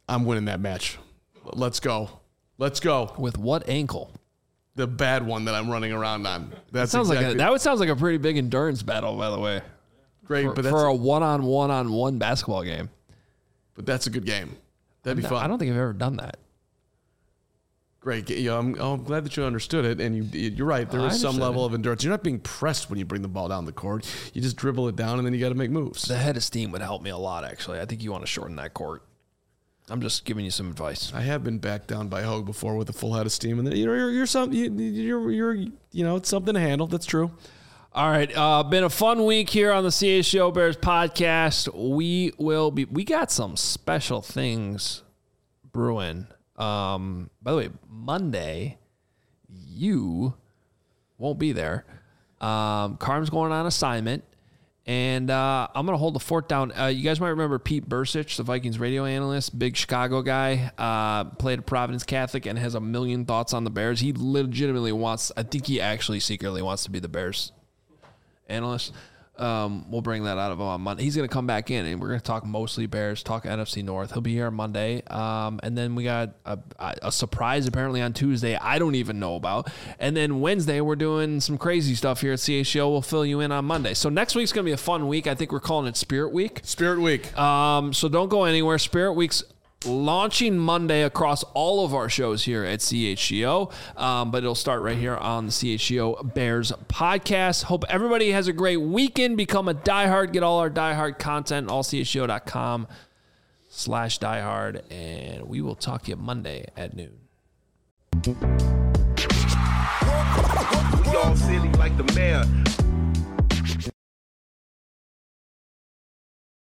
I'm winning that match. Let's go. Let's go. With what ankle? The bad one that I'm running around on. That sounds exactly, like a, that would sounds like a pretty big endurance battle, by the way. Great, for, but that's for a one-on-one on one basketball game. But that's a good game. That'd be No, fun. I don't think I've ever done that. Great. Yeah, I'm, oh, I'm glad that you understood it, and you, you're right. There I is some understood level it. of endurance. You're not being pressed when you bring the ball down the court. You just dribble it down, and then you got to make moves. The head of steam would help me a lot, actually. I think you want to shorten that court. I'm just giving you some advice. I have been backed down by Hogue before with a full head of steam, and then you're you're, you're some you, you're you're you know it's something to handle. That's true. All right, uh, been a fun week here on the C H G O Bears podcast. We will be. We got some special things brewing. Um, by the way, Monday, you won't be there. Um, Carm's going on assignment, and uh, I'm going to hold the fort down. Uh, you guys might remember Pete Bursich, the Vikings radio analyst, big Chicago guy, uh, played at Providence Catholic and has a million thoughts on the Bears. He legitimately wants, I think he actually secretly wants to be the Bears analyst. Um, we'll bring that out of him on Monday. He's going to come back in, and we're going to talk mostly Bears, talk N F C North. He'll be here on Monday. Um, and then we got a, a surprise apparently on Tuesday I don't even know about. And then Wednesday, we're doing some crazy stuff here at C H G O. We'll fill you in on Monday. So next week's going to be a fun week. I think we're calling it Spirit Week. Spirit Week. Um, so don't go anywhere. Spirit Week's launching Monday across all of our shows here at C H G O, um, but it'll start right here on the C H G O Bears podcast. Hope everybody has a great weekend. Become a diehard. Get all our diehard content, all C H G O dot com slash diehard, and we will talk to you Monday at noon. Y'all silly.